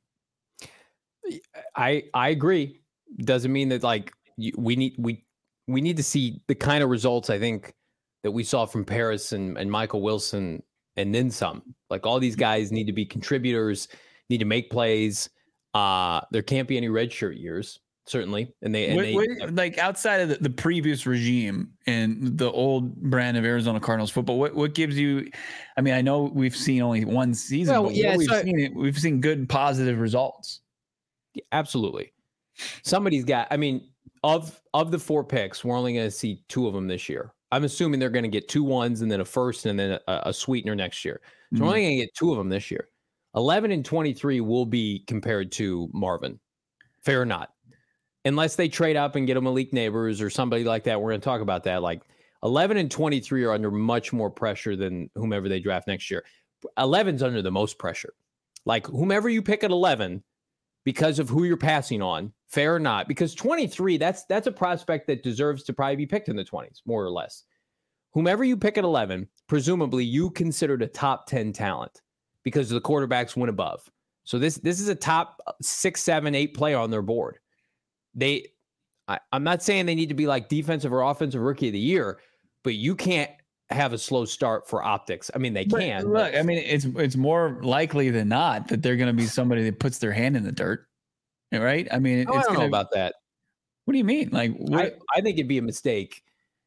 A: I I agree. Doesn't mean that like you, we need we we need to see the kind of results I think that we saw from Paris and, and Michael Wilson and then some. Like all these guys need to be contributors, need to make plays. Uh, there can't be any redshirt years. Certainly. And they, and
B: what,
A: they
B: what, like outside of the, the previous regime and the old brand of Arizona Cardinals football, what, what gives you, I mean, I know we've seen only one season,
A: well,
B: but
A: yeah,
B: we've
A: so,
B: seen it, we've seen good, positive results.
A: Absolutely. Somebody's got, I mean, of, of the four picks, we're only going to see two of them this year. I'm assuming they're going to get two ones and then a first and then a, a sweetener next year. So mm-hmm. we're only going to get two of them this year. eleven and twenty-three will be compared to Marvin. Fair or not? Unless they trade up and get a Malik Neighbors or somebody like that, we're going to talk about that. Like eleven and twenty-three are under much more pressure than whomever they draft next year. eleven's under the most pressure. Like whomever you pick at eleven, because of who you're passing on, fair or not, because twenty-three, that's that's a prospect that deserves to probably be picked in the twenties, more or less. Whomever you pick at eleven, presumably you considered a top ten talent because the quarterbacks went above. So this this is a top six, seven, eight player on their board. They, I, I'm not saying they need to be like defensive or offensive rookie of the year, but you can't have a slow start for optics. I mean, they
B: but
A: can.
B: Look, I mean, it's it's more likely than not that they're going to be somebody that puts their hand in the dirt, right? I mean, it,
A: oh,
B: it's
A: I don't
B: gonna,
A: know about that.
B: What do you mean? Like, what,
A: I, I think it'd be a mistake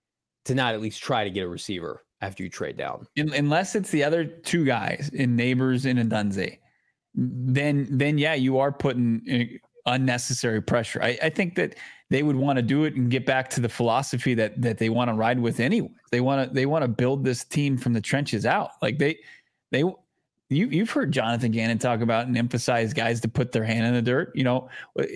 A: to not at least try to get a receiver after you trade down,
B: in, unless it's the other two guys in Neighbors and Ndunze. Then, then yeah, you are putting unnecessary pressure. I, I think that they would want to do it and get back to the philosophy that that they want to ride with anyway. They want to they want to build this team from the trenches out. Like they they you you've heard Jonathan Gannon talk about and emphasize guys to put their hand in the dirt. You know,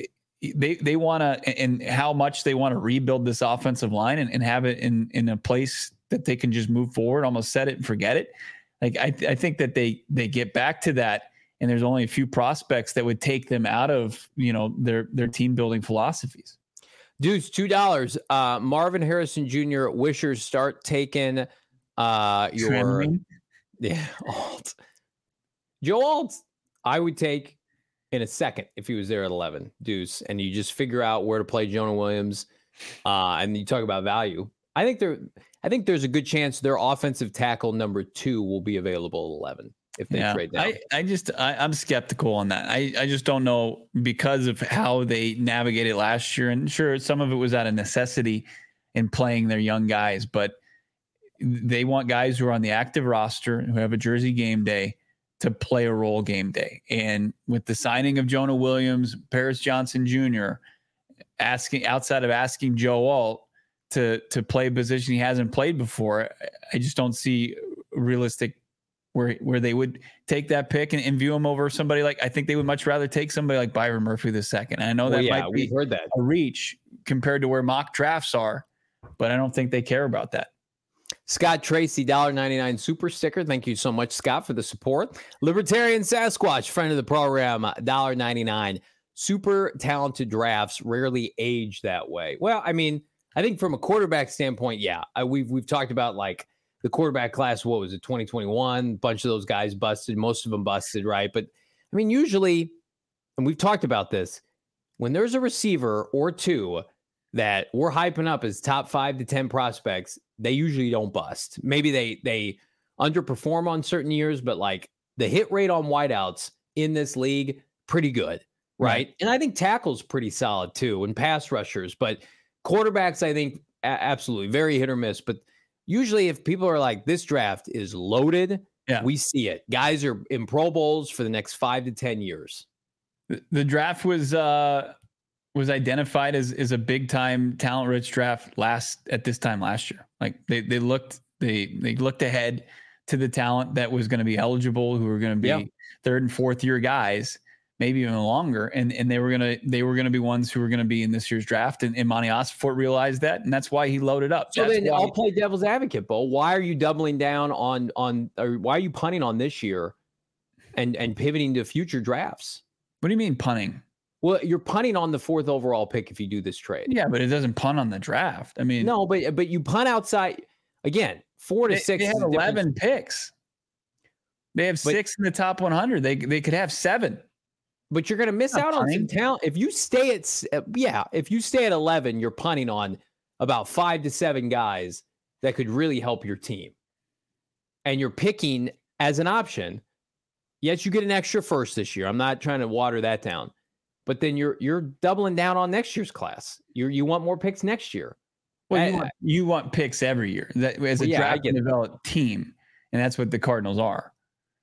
B: they they want to and how much they want to rebuild this offensive line and, and have it in in a place that they can just move forward, almost set it and forget it. Like I I think that they they get back to that. And there's only a few prospects that would take them out of, you know, their their team building philosophies.
A: Dudes, two dollars. Uh, Marvin Harrison Junior Wishers start taking uh, your
B: Trembling.
A: yeah Alt. Joe Alt, I would take in a second if he was there at eleven. Deuce, and you just figure out where to play Jonah Williams, uh, and you talk about value. I think there, I think there's a good chance their offensive tackle number two will be available at eleven. if they
B: yeah,
A: trade down.
B: I, I just I, I'm skeptical on that. I, I just don't know because of how they navigated last year. And sure, some of it was out of necessity in playing their young guys, but they want guys who are on the active roster who have a jersey game day to play a role game day. And with the signing of Jonah Williams, Paris Johnson Junior, asking outside of asking Joe Alt to to play a position he hasn't played before, I just don't see realistic where where they would take that pick and, and view him over somebody like, I think they would much rather take somebody like Byron Murphy the second. I know
A: well,
B: that
A: yeah,
B: might be
A: we've heard that.
B: a reach compared to where mock drafts are, but I don't think they care about that.
A: Scott Tracy, one dollar ninety-nine super sticker. Thank you so much, Scott, for the support. Libertarian Sasquatch, friend of the program, one dollar ninety-nine. Super talented drafts rarely age that way. Well, I mean, I think from a quarterback standpoint, yeah, I, we've we've talked about like the quarterback class. What was it, twenty twenty-one? A bunch of those guys busted. Most of them busted, right? But I mean, usually, and we've talked about this, when there's a receiver or two that we're hyping up as top five to ten prospects, they usually don't bust. Maybe they they underperform on certain years, but like the hit rate on wideouts in this league, pretty good, right? right. And I think tackles pretty solid too, and pass rushers. But quarterbacks, I think a- absolutely very hit or miss. But usually, if people are like, this draft is loaded, yeah. we see it. Guys are in Pro Bowls for the next five to ten years.
B: The, the draft was. Uh... was identified as, as a big time talent rich draft last at this time last year. Like they, they looked, they, they looked ahead to the talent that was going to be eligible, who were going to be yeah. third and fourth year guys, maybe even longer. And, and they were going to, they were going to be ones who were going to be in this year's draft. And, and Monty Ossenfort realized that. And that's why he loaded up.
A: So
B: that's
A: then
B: why,
A: I'll play devil's advocate, Bo. Why are you doubling down on, on, or why are you punting on this year and, and pivoting to future drafts?
B: What do you mean punting?
A: Well, you're punting on the fourth overall pick if you do this trade.
B: Yeah, but it doesn't punt on the draft. I mean,
A: no, but but you punt outside again. Four to
B: they,
A: six.
B: They have eleven picks. They have but, six in the top one hundred. They they could have seven.
A: But you're going to miss out punting. on some talent if you stay at yeah. If you stay at eleven, you're punting on about five to seven guys that could really help your team, and you're picking as an option. Yes, you get an extra first this year. I'm not trying to water that down. But then you're you're doubling down on next year's class. You you want more picks next year.
B: Well,
A: I,
B: you, want, you want picks every year that, as a well, yeah, draft and developed team, and that's what the Cardinals are.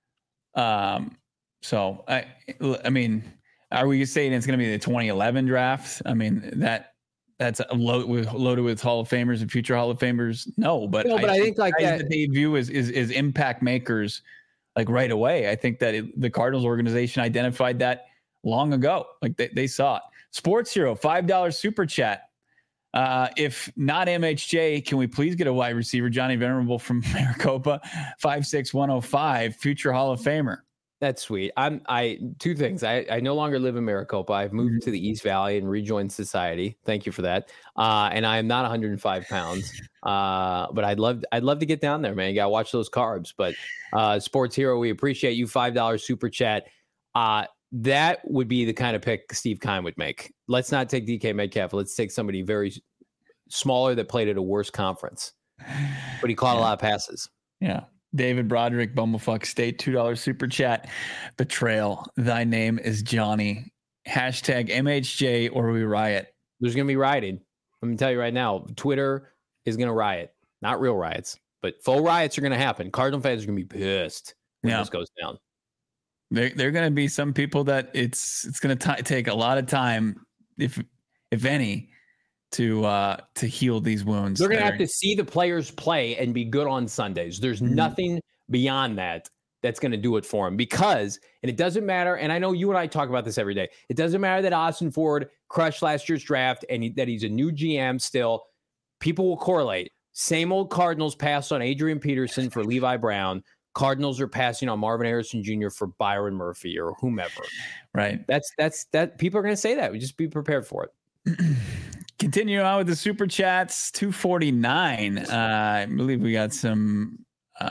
B: Um. So I I mean, are we saying it's going to be the twenty eleven draft? I mean that that's a load with loaded with Hall of Famers and future Hall of Famers. No, but
A: no, but I, I think like that,
B: that they view as is is impact makers like right away. I think that it, the Cardinals organization identified that long ago. Like they, they saw it. Sports Hero, five dollars super chat. Uh, if not M H J, can we please get a wide receiver? Johnny Venerable from Maricopa, five six one oh five, future Hall of Famer.
A: That's sweet. I'm I two things. I, I no longer live in Maricopa. I've moved mm-hmm. to the East Valley and rejoined society. Thank you for that. Uh, and I am not one hundred five pounds. Uh, but I'd love I'd love to get down there, man. You gotta watch those carbs. But uh, Sports Hero, we appreciate you. five dollars super chat. Uh That would be the kind of pick Steve Keim would make. Let's not take D K Metcalf. Let's take somebody very smaller that played at a worse conference, but he caught yeah. a lot of passes.
B: Yeah. David Broderick, Bumblefuck State, two dollars super chat. Betrayal. Thy name is Johnny. Hashtag M H J or we riot.
A: There's going to be rioting. Let me tell you right now, Twitter is going to riot. Not real riots, but faux riots are going to happen. Cardinal fans are going to be pissed when yeah. this goes down.
B: There, there are going to be some people that it's it's going to take a lot of time, if if any, to uh, to heal these wounds.
A: They're going to have to see the players play and be good on Sundays. There's mm-hmm. nothing beyond that that's going to do it for them because, and it doesn't matter. And I know you and I talk about this every day. It doesn't matter that Ossenfort crushed last year's draft and he, that he's a new G M still. People will correlate. Same old Cardinals passed on Adrian Peterson for Levi Brown. Cardinals are passing on Marvin Harrison Junior for Byron Murphy or whomever.
B: Right.
A: That's that's that. People are going to say that. We just be prepared for it.
B: Continue on with the super chats. two forty-nine. Uh, I believe we got some.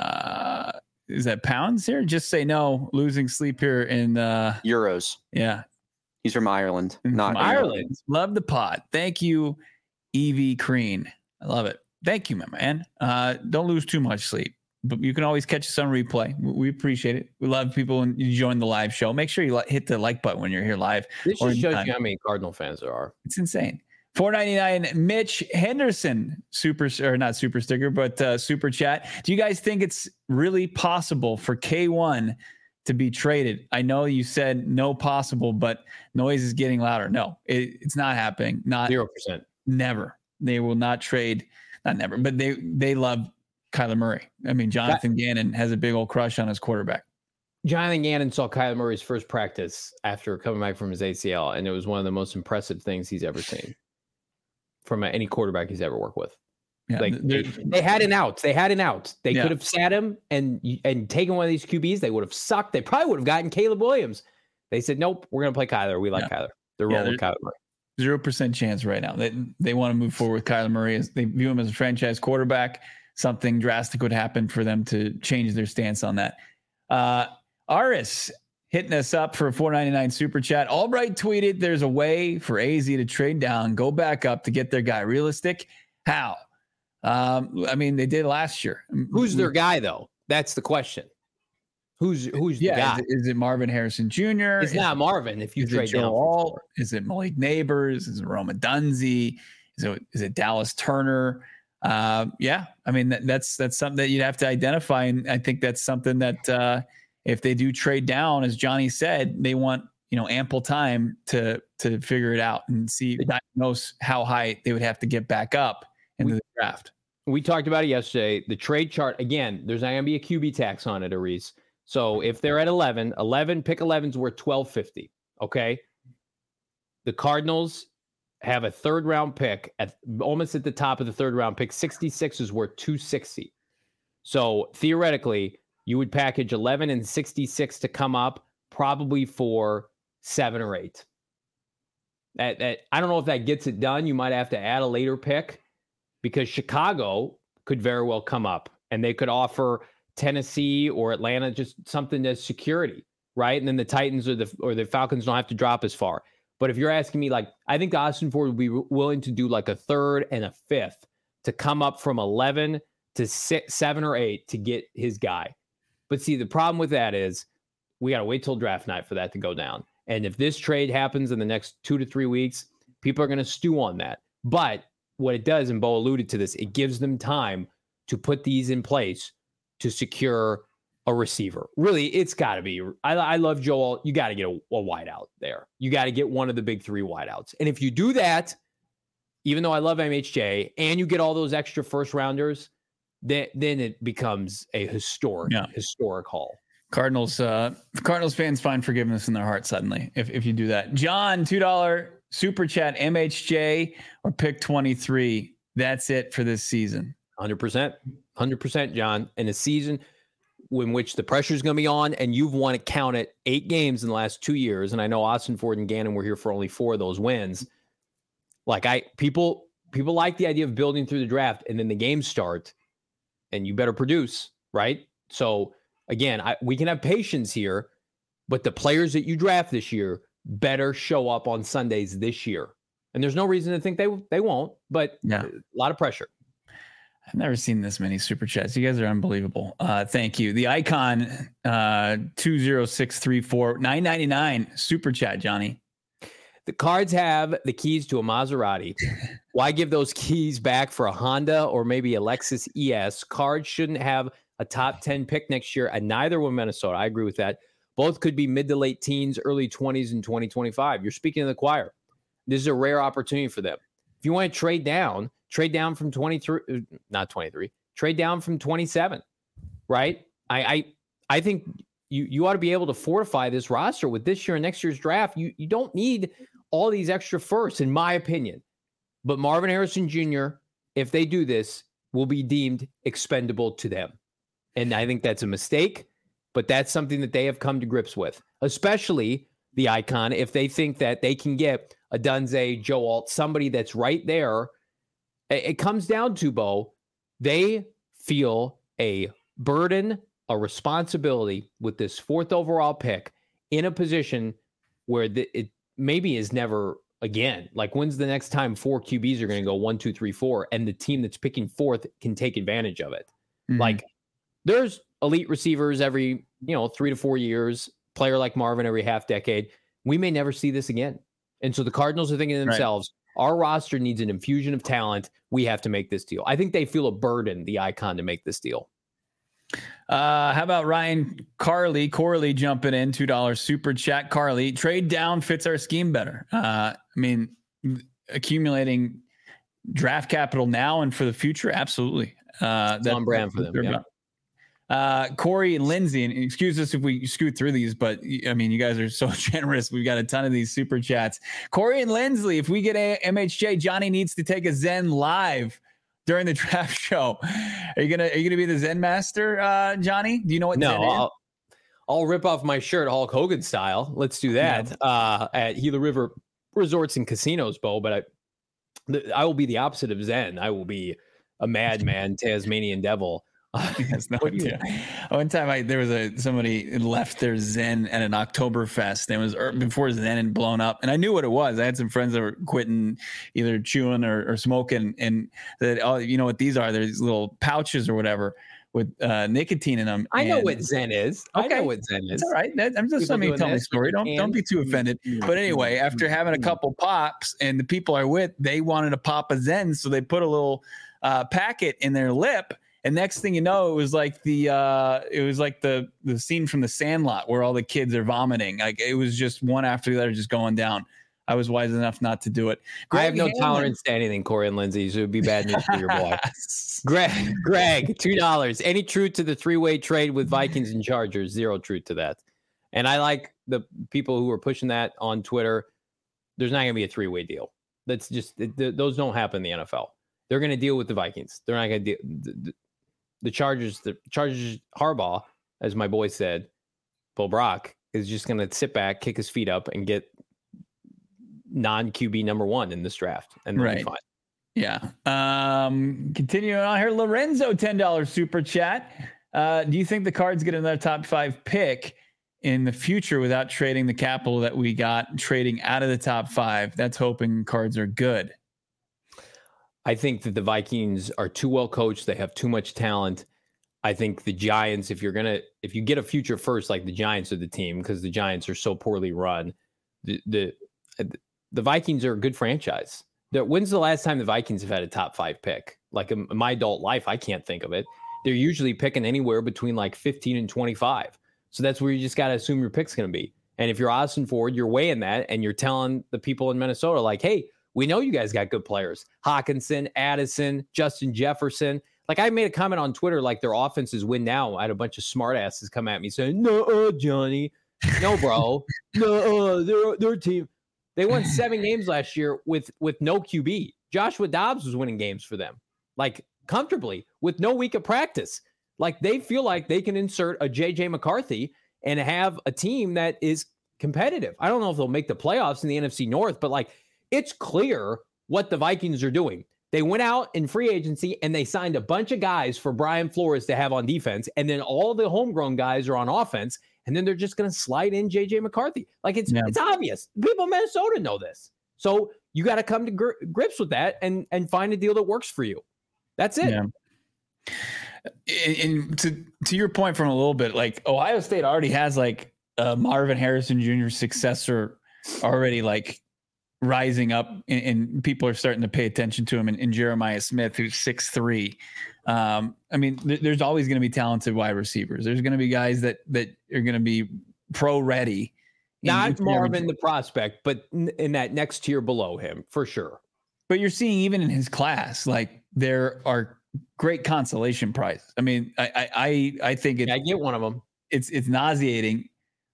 B: Uh, is that pounds here? Just say no. Losing sleep here in uh,
C: euros.
B: Yeah.
C: He's from Ireland. Not
B: from Ireland. Love the pod. Thank you, Evie Crean. I love it. Thank you, my man. Uh, don't lose too much sleep. but you can always catch us on replay. We appreciate it. We love people when you join the live show. Make sure you li- hit the like button when you're here live.
A: This just shows you how many Cardinal fans there are.
B: It's insane. four ninety-nine Mitch Henderson, super or not super sticker, but uh, super chat. Do you guys think it's really possible for K one to be traded? I know you said no possible, but noise is getting louder. No, it, it's not happening. Not
A: Zero percent.
B: Never. They will not trade. Not never, but they they love Kyler Murray. I mean, Jonathan that, Gannon has a big old crush on his quarterback.
A: Jonathan Gannon saw Kyler Murray's first practice after coming back from his A C L, and it was one of the most impressive things he's ever seen from any quarterback he's ever worked with. Yeah, like they, they had an out. They had an out. They yeah. could have sat him and and taken one of these Q Bs. They would have sucked. They probably would have gotten Caleb Williams. They said, nope, we're going to play Kyler. We like yeah. Kyler. They're rolling yeah, with Kyler Murray.
B: Zero percent chance right now. They they want to move forward with Kyler Murray. As they view him as a franchise quarterback. Something drastic would happen for them to change their stance on that. Uh, Aris hitting us up for a four ninety-nine super chat. Albright tweeted, "There's a way for A Z to trade down, go back up to get their guy. Realistic? How? Um, I mean, they did last year.
A: Who's their guy though? That's the question. Who's who's
B: yeah,
A: the guy?
B: Is it, is it Marvin Harrison Junior?
A: It's
B: is
A: not
B: it,
A: Marvin. If you trade down,
B: Alt? Is it Malik Neighbors? Is it Roma Dunzi? Is it is it Dallas Turner? Uh, yeah, I mean that, that's that's something that you'd have to identify, and I think that's something that uh, if they do trade down, as Johnny said, they want you know ample time to to figure it out and see diagnose how high they would have to get back up into we, the draft.
A: We talked about it yesterday. The trade chart again. There's not going to be a Q B tax on it, Aris. So if they're at eleven, eleven pick eleven's worth twelve fifty. Okay, the Cardinals have a third round pick at almost at the top of the third round pick. sixty-six is worth two sixty. So theoretically, you would package eleven and sixty-six to come up probably for seven or eight. That, that I don't know if that gets it done. You might have to add a later pick because Chicago could very well come up and they could offer Tennessee or Atlanta just something as security, right? And then the Titans or the or the Falcons don't have to drop as far. But if you're asking me, like, I think Austin Ford would be willing to do like a third and a fifth to come up from eleven to six, seven or eight to get his guy. But see, the problem with that is we got to wait till draft night for that to go down. And if this trade happens in the next two to three weeks, people are going to stew on that. But what it does, and Bo alluded to this, it gives them time to put these in place to secure a receiver. Really, it's got to be. I, I love Joel. You got to get a, a wideout there. You got to get one of the big three wideouts. And if you do that, even though I love M H J, and you get all those extra first rounders, then then it becomes a historic, yeah. historic haul.
B: Cardinals, uh, Cardinals fans find forgiveness in their heart suddenly if if you do that. John, two dollar super chat, M H J or pick twenty-three. That's it for this season.
A: one hundred percent. one hundred percent, John. In a season in which the pressure is going to be on, and you've won it, count it, eight games in the last two years. And I know Austin Ford and Gannon were here for only four of those wins. Like I, people, people like the idea of building through the draft, and then the games start, and you better produce, right? So again, I, we can have patience here, but the players that you draft this year better show up on Sundays this year. And there's no reason to think they they won't, but yeah. a lot of pressure.
B: I've never seen this many super chats. You guys are unbelievable. Uh, thank you. The Icon uh, two zero six three four nine ninety-nine super chat, Johnny.
A: The Cards have the keys to a Maserati. Why give those keys back for a Honda or maybe a Lexus E S? Cards shouldn't have a top ten pick next year, and neither will Minnesota. I agree with that. Both could be mid to late teens, early twenties in twenty twenty-five. You're speaking to the choir. This is a rare opportunity for them. If you want to trade down, trade down from twenty-three, not twenty-three, trade down from twenty-seven, right? I I, I think you, you ought to be able to fortify this roster with this year and next year's draft. You, you don't need all these extra firsts, in my opinion. But Marvin Harrison Junior, if they do this, will be deemed expendable to them. And I think that's a mistake, but that's something that they have come to grips with, especially the Icon, if they think that they can get a Dunze, Joe Alt, somebody that's right there. It comes down to, Bo, they feel a burden, a responsibility with this fourth overall pick in a position where the, it maybe is never again. Like, when's the next time four Q Bs are going to go one, two, three, four, and the team that's picking fourth can take advantage of it? Mm-hmm. Like, there's elite receivers every, you know, three to four years, player like Marvin every half decade. We may never see this again. And so the Cardinals are thinking to themselves, right, our roster needs an infusion of talent. We have to make this deal. I think they feel a burden, the Icon, to make this deal.
B: Uh, how about Ryan Carly, Corley jumping in, two dollars super chat. Carly, trade down fits our scheme better. Uh, I mean, accumulating draft capital now and for the future. Absolutely. Uh,
A: that's on brand for them. Yeah.
B: Uh, Corey and Lindsay, and excuse us if we scoot through these, but I mean, you guys are so generous. We've got a ton of these super chats. Corey and Lindsley, if we get a M H J, Johnny needs to take a Zen live during the draft show. Are you gonna Are you gonna be the Zen master, uh, Johnny? Do you know what?
A: No,
B: Zen
A: I'll,
B: is?
A: I'll rip off my shirt Hulk Hogan style. Let's do that. Yeah. Uh, at Gila River Resorts and Casinos, Bo. But I, the, I will be the opposite of Zen. I will be a madman, Tasmanian devil.
B: Yes, no idea. One time, I there was a somebody left their Zen at an Oktoberfest, and it was before Zen had blown up, and I knew what it was. I had some friends that were quitting, either chewing or, or smoking, and that, oh, you know what these are? There's little pouches or whatever with uh, nicotine in them.
A: I
B: and,
A: know what Zen is.
B: Okay.
A: I know what Zen is.
B: It's all right. That, I'm just letting you tell me a story. Don't don't be too offended. But anyway, after having a couple pops, and the people are with, they wanted to pop a Zen, so they put a little uh, packet in their lip. And next thing you know, it was like the uh, it was like the the scene from The Sandlot where all the kids are vomiting. Like it was just one after the other, just going down. I was wise enough not to do it.
A: Greg I have no Hanlon. tolerance to anything, Corey and Lindsay. So it would be bad news for your boy. Greg, Greg, two dollars. Any truth to the three-way trade with Vikings and Chargers? Zero truth to that. And I like the people who are pushing that on Twitter. There's not going to be a three-way deal. That's just it, th- those don't happen in the N F L. They're going to deal with the Vikings. They're not going to deal. The, the, The Chargers, the Chargers, Harbaugh, as my boy said, Bill Brock, is just going to sit back, kick his feet up, and get non-Q B number one in this draft. And right. Be fine.
B: Yeah. Um, continuing on here, Lorenzo, ten dollars super chat. Uh, do you think the Cards get another top five pick in the future without trading the capital that we got trading out of the top five? That's hoping Cards are good.
A: I think that the Vikings are too well coached. They have too much talent. I think the Giants, if you're going to, if you get a future first, like the Giants are the team, because the Giants are so poorly run, the, the, the Vikings are a good franchise. The, when's the last time the Vikings have had a top five pick? Like in my adult life, I can't think of it. They're usually picking anywhere between like fifteen and twenty-five. So that's where you just got to assume your pick's going to be. And if you're Austin Ford, you're weighing that and you're telling the people in Minnesota, like, hey, we know you guys got good players. Hawkinson, Addison, Justin Jefferson. Like I made a comment on Twitter, like their offenses win now. I had a bunch of smartasses come at me saying, no, uh, Johnny. No, bro. no, uh, they're, they're a team. They won seven games last year with, with no Q B. Joshua Dobbs was winning games for them, like comfortably with no week of practice. Like they feel like they can insert a J J McCarthy and have a team that is competitive. I don't know if they'll make the playoffs in the N F C North, but like, it's clear what the Vikings are doing. They went out in free agency and they signed a bunch of guys for Brian Flores to have on defense. And then all the homegrown guys are on offense. And then they're just going to slide in J J McCarthy. Like it's yeah. it's obvious. People in Minnesota know this. So you got to come to gr- grips with that and, and find a deal that works for you. That's it.
B: Yeah. And, and to, to your point from a little bit, like Ohio State already has like a Marvin Harrison Junior successor already like rising up and, and people are starting to pay attention to him and, and Jeremiah Smith, who's six three. Um, I mean, th- there's always going to be talented wide receivers. There's going to be guys that, that are going to be pro ready.
A: Not Marvin, the prospect, but in, in that next tier below him for sure.
B: But you're seeing even in his class, like there are great consolation prizes. I mean, I, I, I, I think it,
A: yeah, I get one of them.
B: It's, it's nauseating.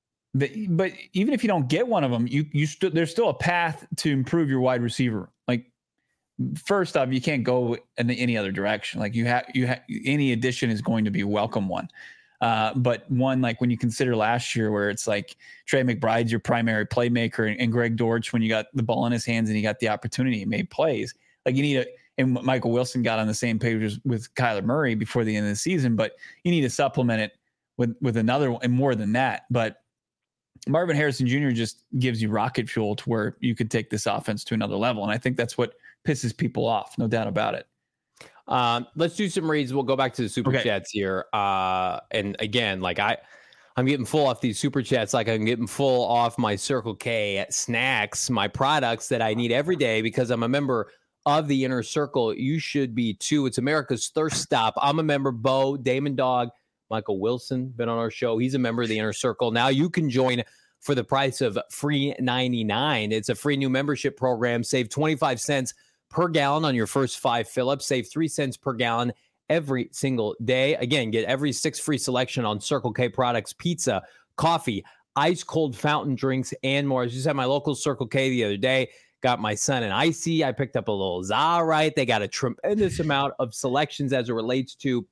B: But even if you don't get one of them, you you st- there's still a path to improve your wide receiver. Like first off, you can't go in any other direction. Like you have you have any addition is going to be a welcome one. Uh, but one like when you consider last year, where it's like Trey McBride's your primary playmaker, and, and Greg Dortch, when you got the ball in his hands and he got the opportunity, he made plays. Like you need a and Michael Wilson got on the same page with, with Kyler Murray before the end of the season, but you need to supplement it with with another one and more than that. But Marvin Harrison Junior just gives you rocket fuel to where you could take this offense to another level. And I think that's what pisses people off. No doubt about it.
A: Um, let's do some reads. We'll go back to the super
B: Okay.
A: chats here. Uh, and again, like I, I'm getting full off these super chats. Like I'm getting full off my Circle K snacks, my products that I need every day because I'm a member of the Inner Circle. You should be too. It's America's thirst stop. I'm a member. Bo, Damon Dog, Michael Wilson, been on our show. He's a member of the Inner Circle. Now you can join for the price of free ninety-nine. It's a free new membership program. Save twenty-five cents per gallon on your first five fill-ups. Save three cents per gallon every single day. Again, get every six free selection on Circle K products, pizza, coffee, ice cold fountain drinks, and more. I just had my local Circle K the other day. Got my son an icy. I picked up a little Zaw. They got a tremendous amount of selections as it relates to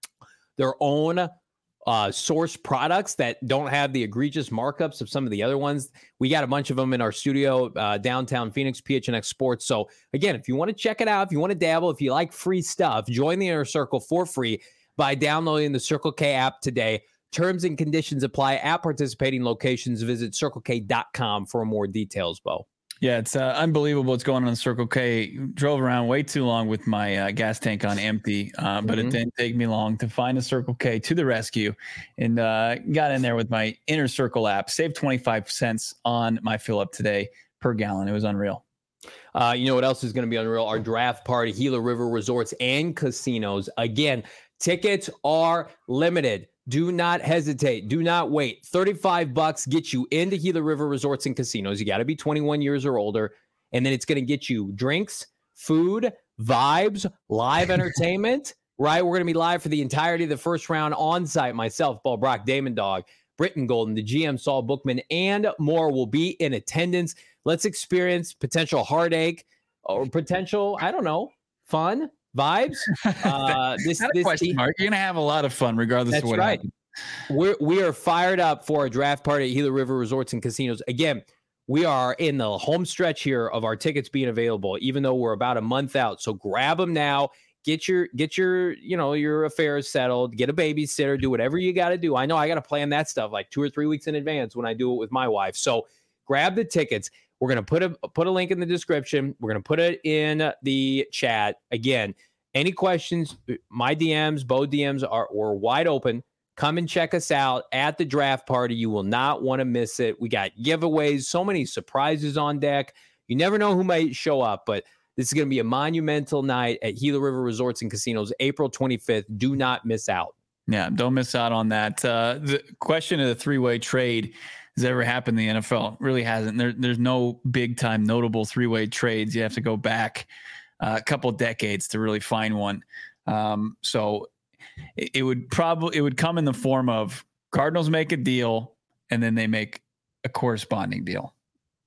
A: their own uh, source products that don't have the egregious markups of some of the other ones. We got a bunch of them in our studio, uh, downtown Phoenix, P H N X Sports. So again, if you want to check it out, if you want to dabble, if you like free stuff, join the Inner Circle for free by downloading the Circle K app today. Terms and conditions apply at participating locations. Visit circle k dot com for more details, Bo.
B: Yeah, it's uh, unbelievable what's going on in Circle K. Drove around way too long with my uh, gas tank on empty, uh, but
A: Mhm.
B: it didn't take me long to find a Circle K to the rescue and uh, got in there with my Inner Circle app. Saved twenty-five cents on my fill up today per gallon. It was unreal.
A: Uh, you know what else is going to be unreal? Our draft party, Gila River Resorts and Casinos. Again, tickets are limited. Do not hesitate. Do not wait. thirty-five bucks gets you into Gila River Resorts and Casinos. You got to be twenty-one years or older. And then it's going to get you drinks, food, vibes, live entertainment, right? We're going to be live for the entirety of the first round on site. Myself, Paul Brock, Damon Dog, Britton Golden, the G M Saul Bookman, and more will be in attendance. Let's experience potential heartache or potential, I don't know, fun, vibes. Uh, this,
B: Not a
A: this
B: question
A: team-
B: mark. You're going to have a lot of fun regardless
A: That's
B: of what
A: right.
B: happens.
A: We're, we are fired up for a draft party at Gila River Resorts and Casinos. Again, we are in the home stretch here of our tickets being available, even though we're about a month out. So grab them now. Get your, get your, you know, your affairs settled. Get a babysitter. Do whatever you got to do. I know I got to plan that stuff like two or three weeks in advance when I do it with my wife. So grab the tickets. We're gonna put a put a link in the description. We're gonna put it in the chat. Again, any questions? My D Ms, Bo D Ms are were wide open. Come and check us out at the draft party. You will not want to miss it. We got giveaways, so many surprises on deck. You never know who might show up, but this is going to be a monumental night at Gila River Resorts and Casinos, April twenty-fifth. Do not miss out.
B: Yeah, don't miss out on that. Uh, the question of the three-way trade has ever happened in the N F L? It really hasn't. There, there's no big-time notable three-way trades. You have to go back uh, a couple decades to really find one. Um, so it, it would probably it would come in the form of Cardinals make a deal and then they make a corresponding deal.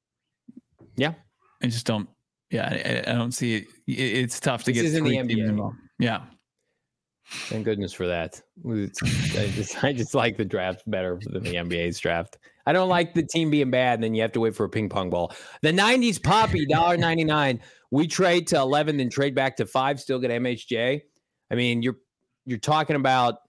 A: Yeah,
B: I just don't. Yeah, I, I don't see it. it. It's tough to
A: This
B: get
A: isn't the
B: three
A: N B A.
B: teams involved. Yeah.
A: Thank goodness for that. It's- I just, I just like the draft better than the N B A's draft. I don't like the team being bad, and then you have to wait for a ping pong ball. The nineties Poppy, one dollar ninety-nine. We trade to eleven, then trade back to five, still get M H J. I mean, you're you're talking about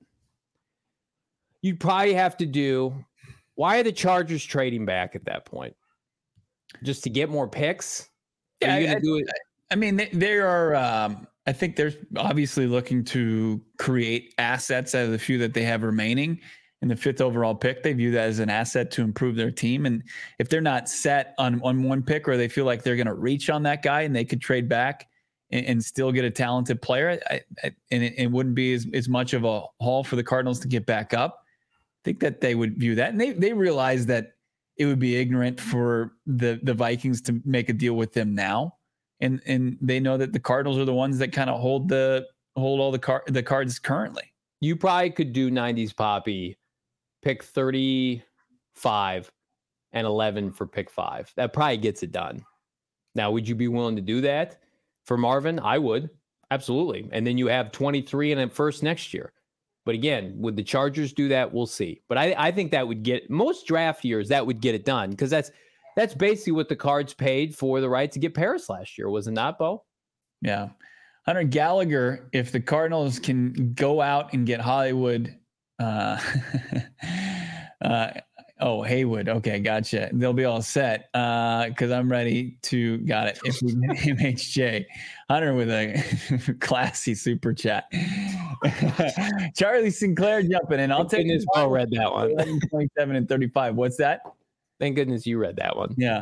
A: you'd probably have to do. Why are the Chargers trading back at that point? Just to get more picks? Are
B: Yeah,
A: you gonna
B: I-
A: do it?
B: I mean, they, they are. Um, I think they're obviously looking to create assets out of the few that they have remaining. In the fifth overall pick, they view that as an asset to improve their team. And if they're not set on, on one pick, or they feel like they're going to reach on that guy and they could trade back and, and still get a talented player, I, I, and it, it wouldn't be as, as much of a haul for the Cardinals to get back up. I think that they would view that, and they they realize that it would be ignorant for the the Vikings to make a deal with them now. And and they know that the Cardinals are the ones that kind of hold the hold all the car the cards currently.
A: You probably could do nineties Poppy, pick thirty-five and eleven for pick five. That probably gets it done. Now, would you be willing to do that for Marvin? I would. Absolutely. And then you have twenty-three and then first next year. But again, would the Chargers do that? We'll see. But I, I think that would get most draft years, that would get it done, because that's That's basically what the Cards paid for the right to get Paris last year, was it not, Bo?
B: Yeah. Hunter Gallagher, if the Cardinals can go out and get Hollywood, uh, uh, Oh, Haywood. Okay, gotcha. They'll be all set because uh, I'm ready to got it. If we get M H J, Hunter with a classy super chat. Charlie Sinclair jumping in. I'll
A: Thank
B: take
A: goodness Bo read that one.
B: twenty-seven and thirty-five. What's that?
A: Thank goodness you read that one.
B: Yeah.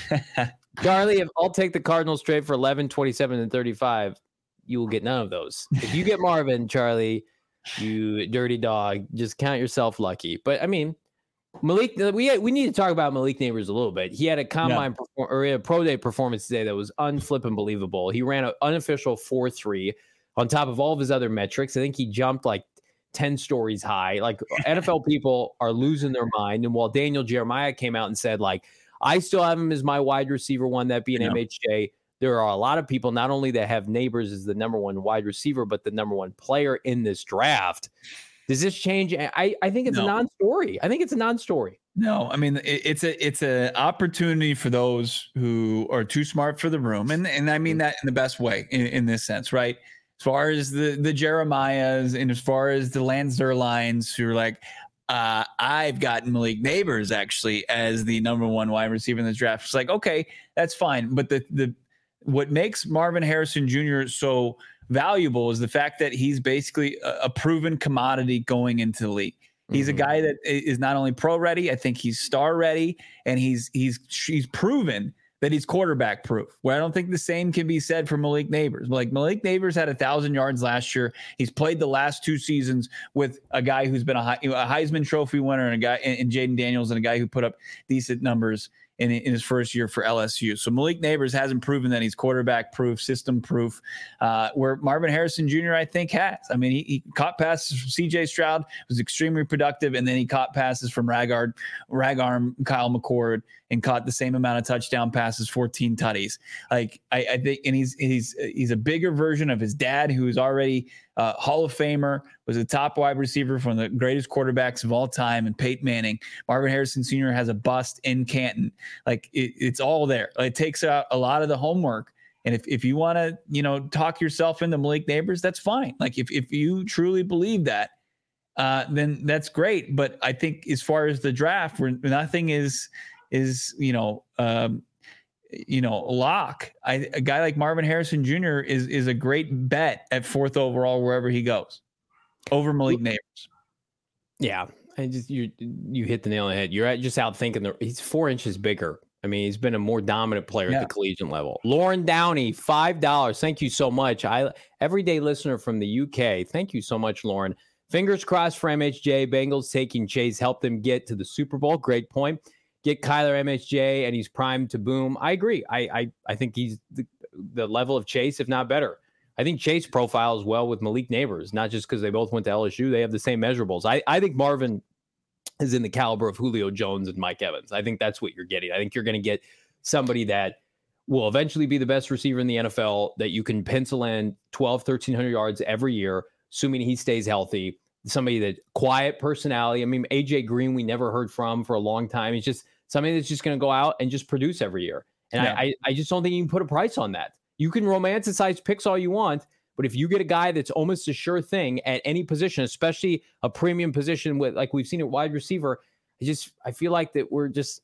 A: Charlie, if I'll take the Cardinals trade for eleven, twenty-seven, and thirty-five, you will get none of those. If you get Marvin, Charlie, you dirty dog, just count yourself lucky. But I mean, Malik, we we need to talk about Malik Neighbors a little bit. He had a combine yeah. perform, or a pro day performance today that was unflippin' believable. He ran an unofficial four three on top of all of his other metrics. I think he jumped like ten stories high. Like N F L people are losing their mind. And while Daniel Jeremiah came out and said, like, I still have him as my wide receiver one, that being yeah. M H J. There are a lot of people not only that have Neighbors as the number one wide receiver, but the number one player in this draft. Does this change? I, I think it's no. a non-story. I think it's a non-story.
B: No, I mean, it, it's a it's an opportunity for those who are too smart for the room. And, and I mean that in the best way in, in this sense, right? As far as the, the Jeremiahs and as far as the Lance Zierleins who are like, uh, I've got Malik Neighbors actually as the number one wide receiver in this draft. It's like, okay, that's fine. But the the what makes Marvin Harrison Junior so valuable is the fact that he's basically a, a proven commodity going into the league. He's mm-hmm. a guy that is not only pro ready, I think he's star ready, and he's he's he's proven that he's quarterback proof. Where I don't think the same can be said for Malik Neighbors. Like Malik Neighbors had a thousand yards last year. He's played the last two seasons with a guy who's been a, a Heisman Trophy winner and a guy in Jaden Daniels and a guy who put up decent numbers in, in his first year for L S U. So Malik Neighbors hasn't proven that he's quarterback proof, system proof, uh, where Marvin Harrison Junior I think has. I mean, he, he caught passes from C J Stroud, was extremely productive, and then he caught passes from Ragard, Ragarm, Kyle McCord, and caught the same amount of touchdown passes, fourteen tutties. Like I, I think, and he's he's he's a bigger version of his dad, who is already uh, Hall of Famer, was a top wide receiver from the greatest quarterbacks of all time, and Peyton Manning. Marvin Harrison Senior has a bust in Canton. Like it, it's all there. It takes out a lot of the homework. And if, if you want to, you know, talk yourself into Malik Neighbors, that's fine. Like if, if you truly believe that, uh, then that's great. But I think as far as the draft, where nothing is, is, you know, um, you know, lock. I, a guy like Marvin Harrison Junior is, is a great bet at fourth overall, wherever he goes, over Malik Neighbors.
A: Yeah. I just, you, you hit the nail on the head. You're at, just out thinking the, he's four inches bigger. I mean, he's been a more dominant player yeah. at the collegiate level. Lauren Downey, five dollars. Thank you so much. I everyday listener from the U K. Thank you so much, Lauren. Fingers crossed for M H J. Bengals taking Chase, help them get to the Super Bowl. Great point. Get Kyler M H J, and he's primed to boom. I agree. I I, I think he's the, the level of Chase, if not better. I think Chase profiles well with Malik Neighbors, not just because they both went to L S U. They have the same measurables. I, I think Marvin is in the caliber of Julio Jones and Mike Evans. I think that's what you're getting. I think you're going to get somebody that will eventually be the best receiver in the N F L, that you can pencil in twelve, thirteen hundred yards every year, assuming he stays healthy. Somebody that quiet personality. I mean, A J Green, we never heard from for a long time. He's just somebody that's just going to go out and just produce every year. And yeah. I, I just don't think you can put a price on that. You can romanticize picks all you want, but if you get a guy that's almost a sure thing at any position, especially a premium position with, like we've seen at wide receiver, I just, I feel like that we're just,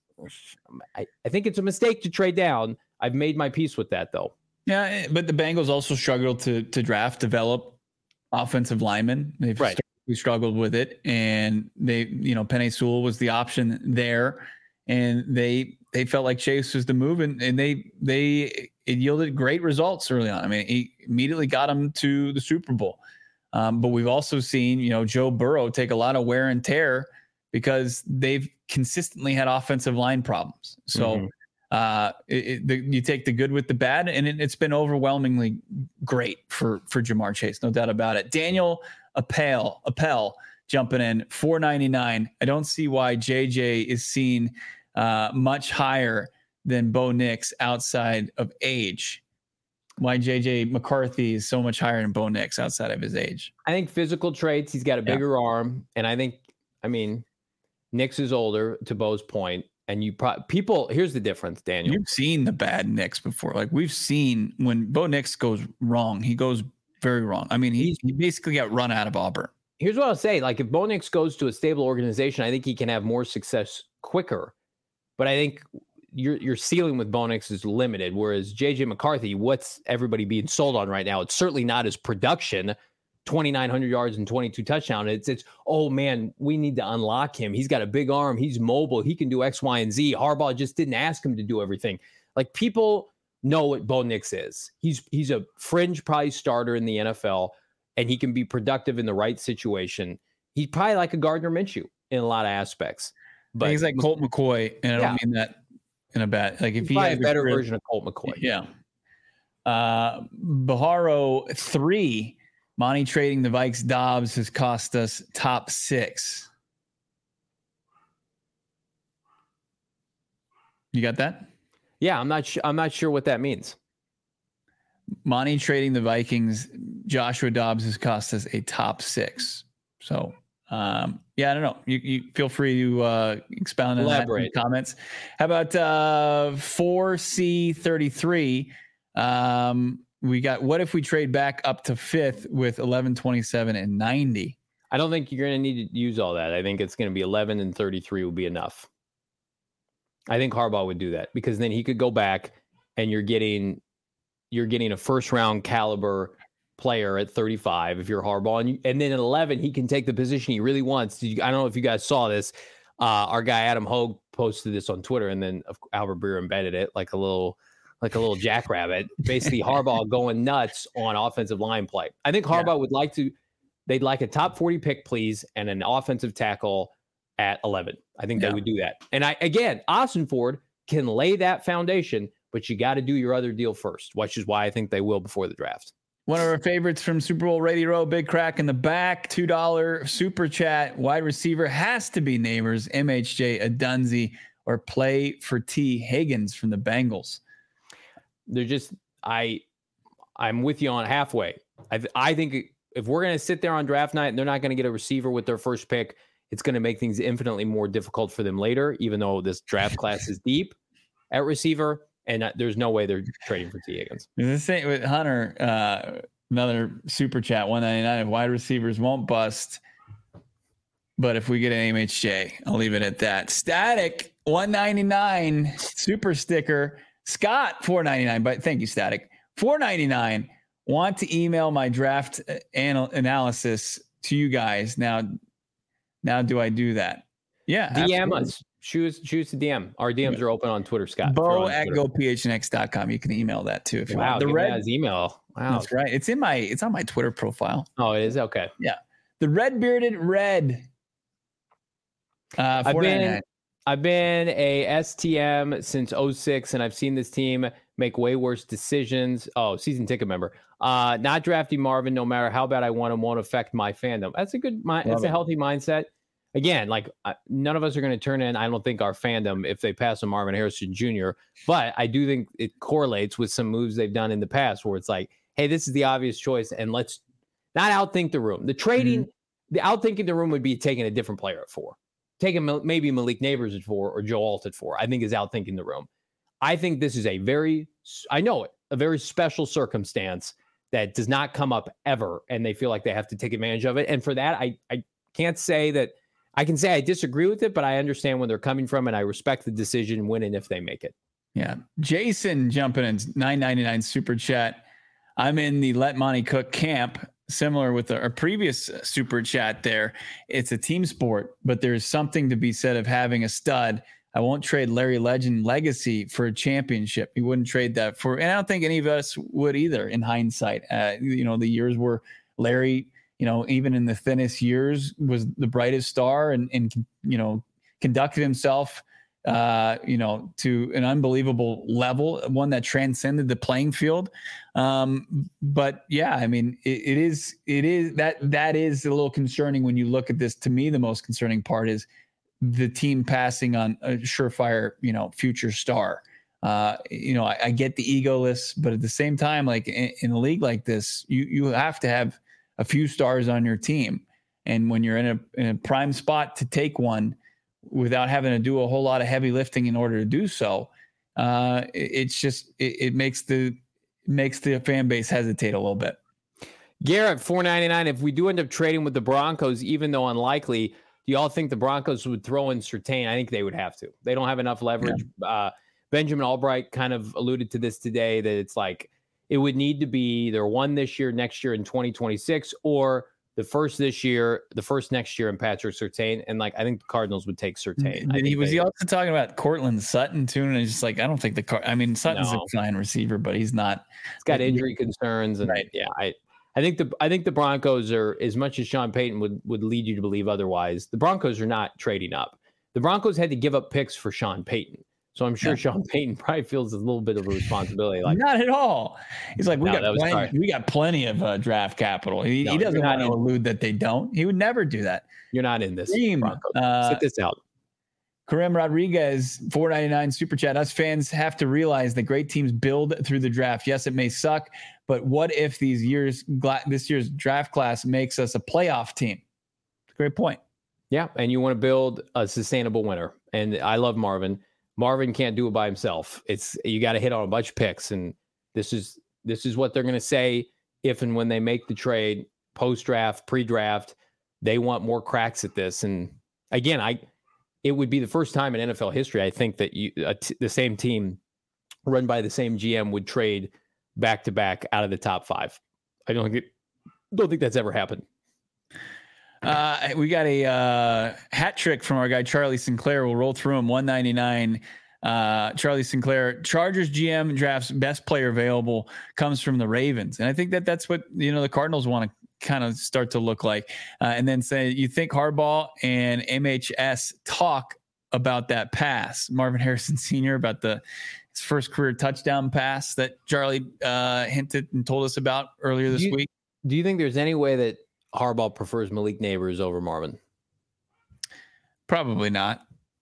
A: I, I think it's a mistake to trade down. I've made my peace with that though.
B: Yeah. But the Bengals also struggled to, to draft, develop offensive linemen. They've
A: right.
B: we struggled with it, and they, you know, Penei Sewell was the option there, and they, they felt like Chase was the move, and, and they, they, it yielded great results early on. I mean, he immediately got him to the Super Bowl. Um, but we've also seen, you know, Joe Burrow take a lot of wear and tear because they've consistently had offensive line problems. So mm-hmm. uh, it, it, the, you take the good with the bad, and it, it's been overwhelmingly great for, for Jamar Chase. No doubt about it. Daniel Appel, Appel jumping in four ninety-nine. I don't see why J J is seen uh, much higher than Bo Nix outside of age. Why J J McCarthy is so much higher than Bo Nix outside of his age.
A: I think physical traits, he's got a bigger yeah. arm. And I think, I mean, Nix is older, to Bo's point. And you pro- people, here's the difference, Daniel.
B: You've seen the bad Nix before. Like we've seen when Bo Nix goes wrong, he goes very wrong. I mean, he, he basically got run out of Auburn.
A: Here's what I'll say. Like if Bo Nix goes to a stable organization, I think he can have more success quicker. But I think your your ceiling with Bo Nix is limited, whereas J J McCarthy, what's everybody being sold on right now? It's certainly not his production, twenty-nine hundred yards and twenty-two touchdowns. It's, it's, oh man, we need to unlock him. He's got a big arm. He's mobile. He can do X, Y, and Z. Harbaugh just didn't ask him to do everything. Like, people know what Bo Nix is. He's, he's a fringe prize starter in the N F L, and he can be productive in the right situation. He's probably like a Gardner Minshew in a lot of aspects. But
B: he's like Colt McCoy, and I don't
A: Yeah.
B: mean that in a bad, like, if
A: he's
B: he
A: probably
B: had
A: a better
B: career-
A: version of Colt McCoy.
B: Yeah. Uh, Baharo three, Monty trading the Vikes Dobbs has cost us top six. You got that?
A: Yeah, I'm not sure. I'm not sure what that means.
B: Monty trading the Vikings, Joshua Dobbs has cost us a top six. So, um, yeah, I don't know. You, you feel free to uh, expound on
A: Elaborate.
B: that in the comments. How about uh, four C thirty-three? Um, we got, what if we trade back up to fifth with eleven, twenty-seven, and ninety?
A: I don't think you're going to need to use all that. I think it's going to be eleven and thirty-three will be enough. I think Harbaugh would do that, because then he could go back and you're getting you're getting a first round caliber player at thirty-five if you're Harbaugh, and you, and then at eleven he can take the position he really wants. Did you, I don't know if you guys saw this. Uh, our guy Adam Hogue posted this on Twitter, and then Albert Breer embedded it like a little like a little jackrabbit. Basically, Harbaugh going nuts on offensive line play. I think Harbaugh yeah. would like to. They'd like a top forty pick, please, and an offensive tackle at eleven. I think yeah. they would do that. And I again, Austin Ford can lay that foundation, but you got to do your other deal first, which is why I think they will before the draft.
B: One of our favorites from Super Bowl Radio, Big Crack in the back, two dollars super chat. Wide receiver has to be Neighbors, M H J, Adunzi, or play for T. Higgins from the Bengals.
A: They're just, I, I'm with you on halfway. I, I think if we're going to sit there on draft night and they're not going to get a receiver with their first pick, it's going to make things infinitely more difficult for them later, even though this draft class is deep at receiver. And uh, there's no way they're trading for T. Higgins.
B: The same with Hunter, uh, another super chat, one ninety-nine. Wide receivers won't bust, but if we get an M H J, I'll leave it at that. Static, one ninety-nine, super sticker. Scott, four ninety-nine. But thank you, Static. four ninety-nine. Want to email my draft anal- analysis to you guys. Now, now do I do that? Yeah.
A: D M
B: absolutely.
A: us. Choose choose to D M. Our D Ms are open on Twitter, Scott.
B: Bo
A: on
B: at
A: Twitter.
B: go p h n x dot com. You can email that too if you
A: wow,
B: want. The
A: red
B: red
A: email. Wow,
B: that's right. It's in my it's on my Twitter profile.
A: Oh, it is okay.
B: Yeah, the red bearded red. Uh,
A: I've been I've been a S T M since oh six, and I've seen this team make way worse decisions. Oh, season ticket member. Uh, not drafting Marvin, no matter how bad I want him, won't affect my fandom. That's a good mind. That's a healthy mindset. Again, like uh, none of us are going to turn in, I don't think, our fandom if they pass on Marvin Harrison Junior But I do think it correlates with some moves they've done in the past where it's like, hey, this is the obvious choice, and let's not outthink the room. The trading, mm-hmm. the outthinking the room would be taking a different player at four. Taking maybe Malik Neighbors at four or Joe Alt at four, I think is outthinking the room. I think this is a very, I know it, a very special circumstance that does not come up ever, and they feel like they have to take advantage of it. And for that, I, I can't say that, I can say I disagree with it, but I understand where they're coming from, and I respect the decision when and if they make it.
B: Yeah. Jason jumping in nine ninety-nine super chat. I'm in the Let Monty Cook camp, similar with our previous super chat there. It's a team sport, but there's something to be said of having a stud. I won't trade Larry Legend legacy for a championship. He wouldn't trade that for, and I don't think any of us would either in hindsight. Uh, you know, the years where Larry, you know, even in the thinnest years, was the brightest star and, and you know, conducted himself, uh, you know, to an unbelievable level, one that transcended the playing field. Um, but yeah, I mean, it, it is, it is that, that is a little concerning when you look at this. To me, the most concerning part is the team passing on a surefire, you know, future star. Uh, you know, I, I get the egoless, but at the same time, like in, in a league like this, you, you have to have a few stars on your team. And when you're in a, in a prime spot to take one without having to do a whole lot of heavy lifting in order to do so, uh, it, it's just, it, it makes the, makes the fan base hesitate a little bit.
A: Garrett, four ninety-nine. If we do end up trading with the Broncos, even though unlikely, Do y'all think the Broncos would throw in Surtain? I think they would have to. They don't have enough leverage. Yeah. Uh, Benjamin Albright kind of alluded to this today, that it's like it would need to be either one this year, next year in twenty twenty-six, or the first this year, the first next year in Patrick Surtain. And like, I think the Cardinals would take Surtain.
B: Did he, was
A: they,
B: he also talking about Cortland Sutton too? And it's just like, I don't think the car, I mean, Sutton's no. a fine receiver, but he's not.
A: He's got injury concerns. And right. yeah, I, I think the, I think the Broncos are, as much as Sean Payton would, would lead you to believe otherwise, the Broncos are not trading up. The Broncos had to give up picks for Sean Payton. So I'm sure yeah. Sean Payton probably feels a little bit of a responsibility. Like,
B: not at all. He's like, we no, got plenty, we got plenty of uh, draft capital. He, no, he doesn't want to allude that they don't. He would never do that.
A: You're not in this.
B: Uh,
A: Sit this out.
B: Kareem Rodriguez, four ninety-nine super chat. Us fans have to realize that great teams build through the draft. Yes, it may suck, but what if these years, this year's draft class makes us a playoff team? Great point.
A: Yeah, and you want to build a sustainable winner. And I love Marvin. Marvin can't do it by himself. It's you got to hit on a bunch of picks, and this is this is what they're going to say if and when they make the trade, post-draft, pre-draft. They want more cracks at this. And again, I it would be the first time in N F L history, I think, that you a t- the same team run by the same G M would trade back to back out of the top five. I don't think it, don't think that's ever happened.
B: Uh, we got a uh, hat trick from our guy Charlie Sinclair. We'll roll through him. one ninety-nine. Uh, Charlie Sinclair, Chargers G M drafts best player available, comes from the Ravens, and I think that that's what you know the Cardinals want to kind of start to look like. Uh, and then say you think Harbaugh and M H S talk about that pass, Marvin Harrison Senior about the his first career touchdown pass that Charlie uh, hinted and told us about earlier this
A: do you,
B: week.
A: Do you think there's any way that Harbaugh prefers Malik Neighbors over Marvin?
B: Probably not.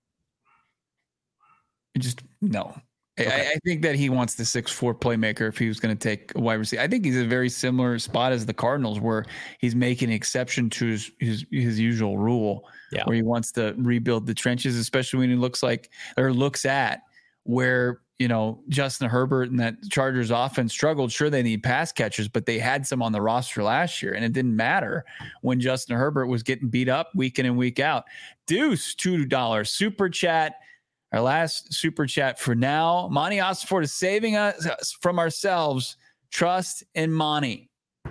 B: Just no. Okay. I, I think that he wants the six foot four playmaker if he was going to take a wide receiver. I think he's a very similar spot as the Cardinals, where he's making an exception to his his, his usual rule, yeah. where he wants to rebuild the trenches, especially when he looks like or looks at where you know Justin Herbert and that Chargers offense struggled. Sure, they need pass catchers, but they had some on the roster last year, and it didn't matter when Justin Herbert was getting beat up week in and week out. Deuce, two dollars super chat. Our last super chat for now. Monty Ossenfort is saving us from ourselves. Trust in Monty.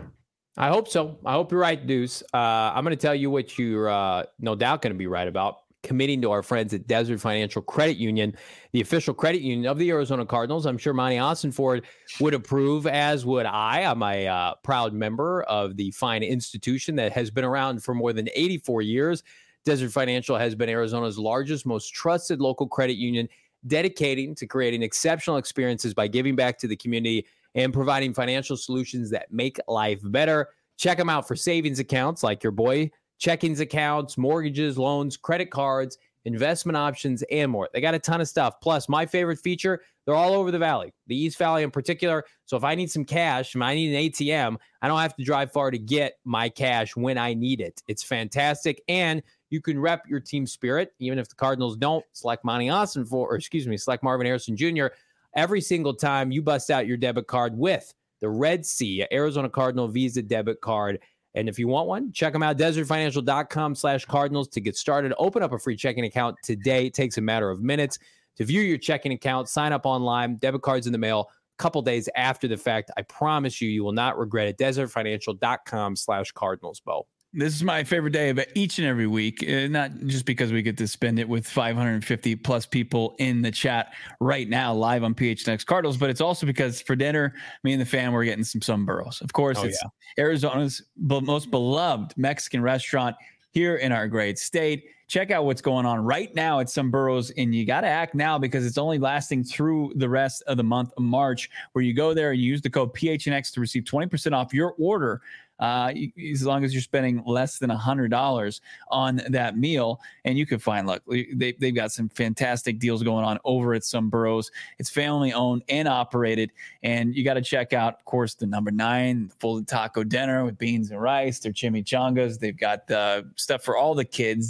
A: I hope so. I hope you're right, Deuce. Uh, I'm going to tell you what you're uh, no doubt going to be right about. Committing to our friends at Desert Financial Credit Union, the official credit union of the Arizona Cardinals. I'm sure Monty Ossenfort would approve, as would I. I'm a uh, proud member of the fine institution that has been around for more than eighty-four years. Desert Financial has been Arizona's largest, most trusted local credit union, dedicating to creating exceptional experiences by giving back to the community and providing financial solutions that make life better. Check them out for savings accounts like your boy, checkings accounts, mortgages, loans, credit cards, investment options, and more. They got a ton of stuff. Plus, my favorite feature, they're all over the valley, the East Valley in particular. So if I need some cash, I need an A T M, I don't have to drive far to get my cash when I need it. It's fantastic. And you can rep your team spirit, even if the Cardinals don't. Select Monty Ossenfort, or excuse me, select Marvin Harrison Junior every single time you bust out your debit card with the Red Sea Arizona Cardinal Visa debit card. And if you want one, check them out, desertfinancial.com slash Cardinals to get started. Open up a free checking account today. It takes a matter of minutes to view your checking account, sign up online, debit cards in the mail a couple days after the fact. I promise you, you will not regret it. desertfinancial.com slash Cardinals, Bo.
B: This is my favorite day of each and every week, uh, not just because we get to spend it with five hundred fifty plus people in the chat right now live on P H N X Cardinals, but it's also because for dinner, me and the fam, we're getting some Sunburros. Of course, oh, it's yeah. Arizona's be- most beloved Mexican restaurant here in our great state. Check out what's going on right now at Sunburros, and you got to act now because it's only lasting through the rest of the month of March, where you go there and you use the code P H N X to receive twenty percent off your order. Uh, as long as you're spending less than one hundred dollars on that meal. And you can find, look, they, they've got some fantastic deals going on over at Sunburros. It's family owned and operated. And you got to check out, of course, the number nine folded taco dinner with beans and rice, their chimichangas. They've got uh, stuff for all the kids. You got the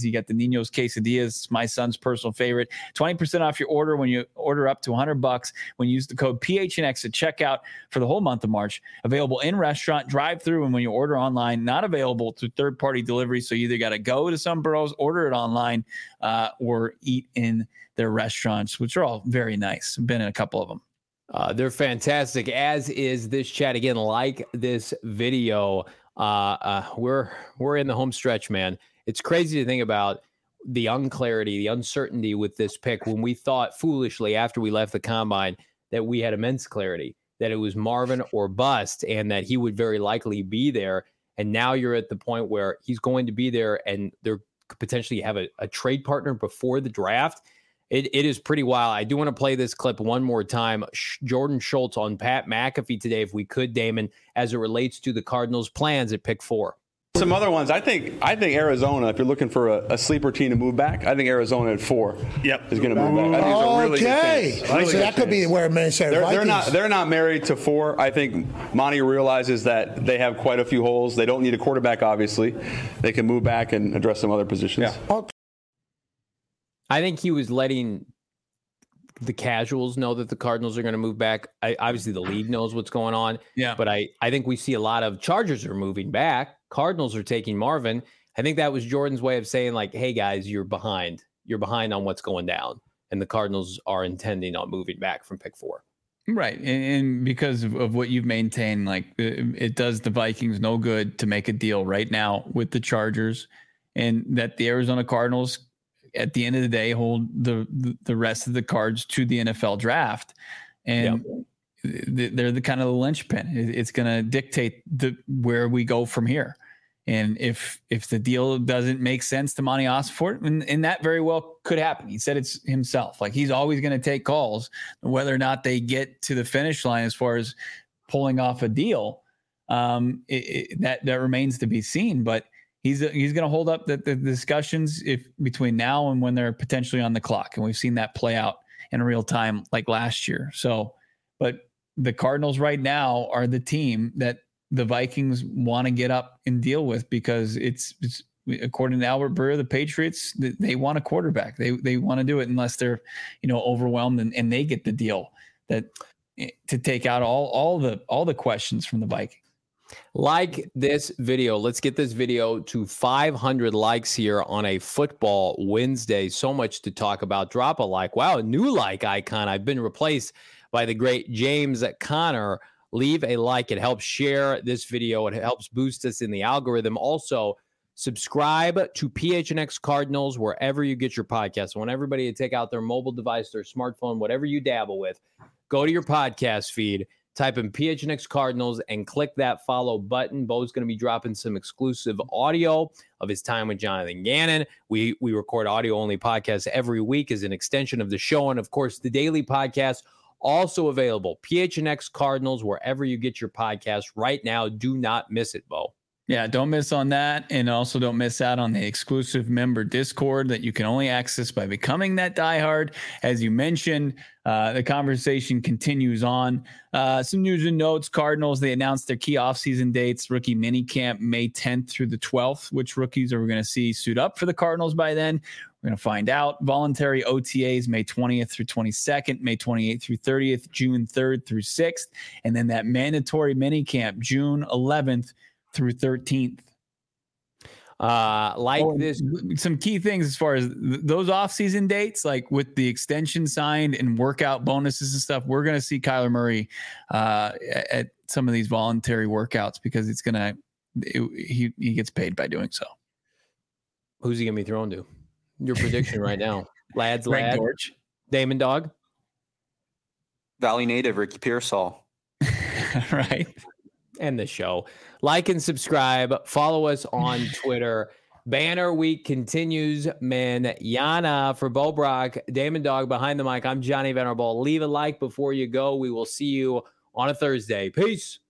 B: Nino's Quesadillas, my son's personal favorite. twenty percent off your order when you order up to one hundred bucks when you use the code P H N X at checkout for the whole month of March. Available in restaurant, drive through, and when you order online, not available to third-party delivery. So you either got to go to some burros, order it online, uh, or eat in their restaurants, which are all very nice. I've been in a couple of them.
A: Uh, they're fantastic, as is this chat. Again, like this video. Uh, uh, we're we're in the home stretch, man. It's crazy to think about the unclarity, the uncertainty with this pick when we thought foolishly after we left the combine that we had immense clarity, that it was Marvin or bust, and that he would very likely be there. And now you're at the point where he's going to be there, and they're could potentially have a, a trade partner before the draft. It, it is pretty wild. I do want to play this clip one more time. Sh- Jordan Schultz on Pat McAfee today, if we could, Damon, as it relates to the Cardinals' plans at pick four.
D: Some other ones, I think. I think Arizona. If you're looking for a, a sleeper team to move back, I think Arizona at four.
F: Yep.
D: is going to move back. I think it's a really
F: okay,
D: good chance. Really
F: so that
D: good
F: could be
D: chance.
F: where Minnesota
D: They're,
F: Vikings.
D: they're not. They're not married to four. I think Monty realizes that they have quite a few holes. They don't need a quarterback. Obviously, they can move back and address some other positions.
F: Yeah. Okay.
A: I think he was letting the casuals know that the Cardinals are going to move back. I, obviously, the league knows what's going on.
B: Yeah.
A: But I, I think we see a lot of Chargers are moving back. Cardinals are taking Marvin. I think that was Jordan's way of saying, like, hey, guys, you're behind. You're behind on what's going down. And the Cardinals are intending on moving back from pick four.
B: Right. And, and because of, of what you've maintained, like it, it does the Vikings no good to make a deal right now with the Chargers, and that the Arizona Cardinals at the end of the day hold the the rest of the cards to the N F L draft. And yep. they're the kind of the linchpin. It's going to dictate the where we go from here. And if if the deal doesn't make sense to Monty Ossenfort, and, and that very well could happen. He said it's himself. Like, he's always going to take calls. Whether or not they get to the finish line as far as pulling off a deal, um, it, it, that that remains to be seen. But he's he's going to hold up the, the discussions if between now and when they're potentially on the clock. And we've seen that play out in real time like last year. So, but the Cardinals right now are the team that the Vikings want to get up and deal with, because it's, it's according to Albert Breer, the Patriots, they want a quarterback. They they want to do it unless they're, you know, overwhelmed and, and they get the deal that to take out all all the all the questions from the Vikings.
A: Like this video. Let's get this video to five hundred likes here on a football Wednesday. So much to talk about. Drop a like. Wow, a new like icon. I've been replaced by the great James Conner. Leave a like. It helps share this video. It helps boost us in the algorithm. Also, subscribe to P H N X Cardinals wherever you get your podcasts. I want everybody to take out their mobile device, their smartphone, whatever you dabble with. Go to your podcast feed, type in P H N X Cardinals, and click that follow button. Bo's going to be dropping some exclusive audio of his time with Jonathan Gannon. We, we record audio-only podcasts every week as an extension of the show. And, of course, the daily podcast also available. P H N X Cardinals, wherever you get your podcast right now. Do not miss it, Bo.
B: Yeah, don't miss on that. And also don't miss out on the exclusive member Discord that you can only access by becoming that diehard. As you mentioned, uh, the conversation continues on. Uh, some news and notes. Cardinals, they announced their key offseason dates. Rookie minicamp May tenth through the twelfth. Which rookies are we going to see suit up for the Cardinals by then? We're going to find out. Voluntary O T As May twentieth through twenty-second, May twenty-eighth through thirtieth, June third through sixth. And then that mandatory minicamp June eleventh through thirteenth.
A: Uh, like oh, this,
B: some key things as far as th- those off-season dates, like with the extension signed and workout bonuses and stuff, we're going to see Kyler Murray uh, at some of these voluntary workouts, because it's going to, he he gets paid by doing so.
A: Who's he going to be thrown to? Your prediction right now. Lads,
B: Greg
A: lad.
B: Dortch.
A: Damon Dog.
C: Valley native Ricky Pearsall.
B: Right.
A: End the show. Like and subscribe. Follow us on Twitter. Banner week continues. Manana for Bo Brock, Damon Dog behind the mic. I'm Johnny Venerable. Leave a like before you go. We will see you on a Thursday. Peace.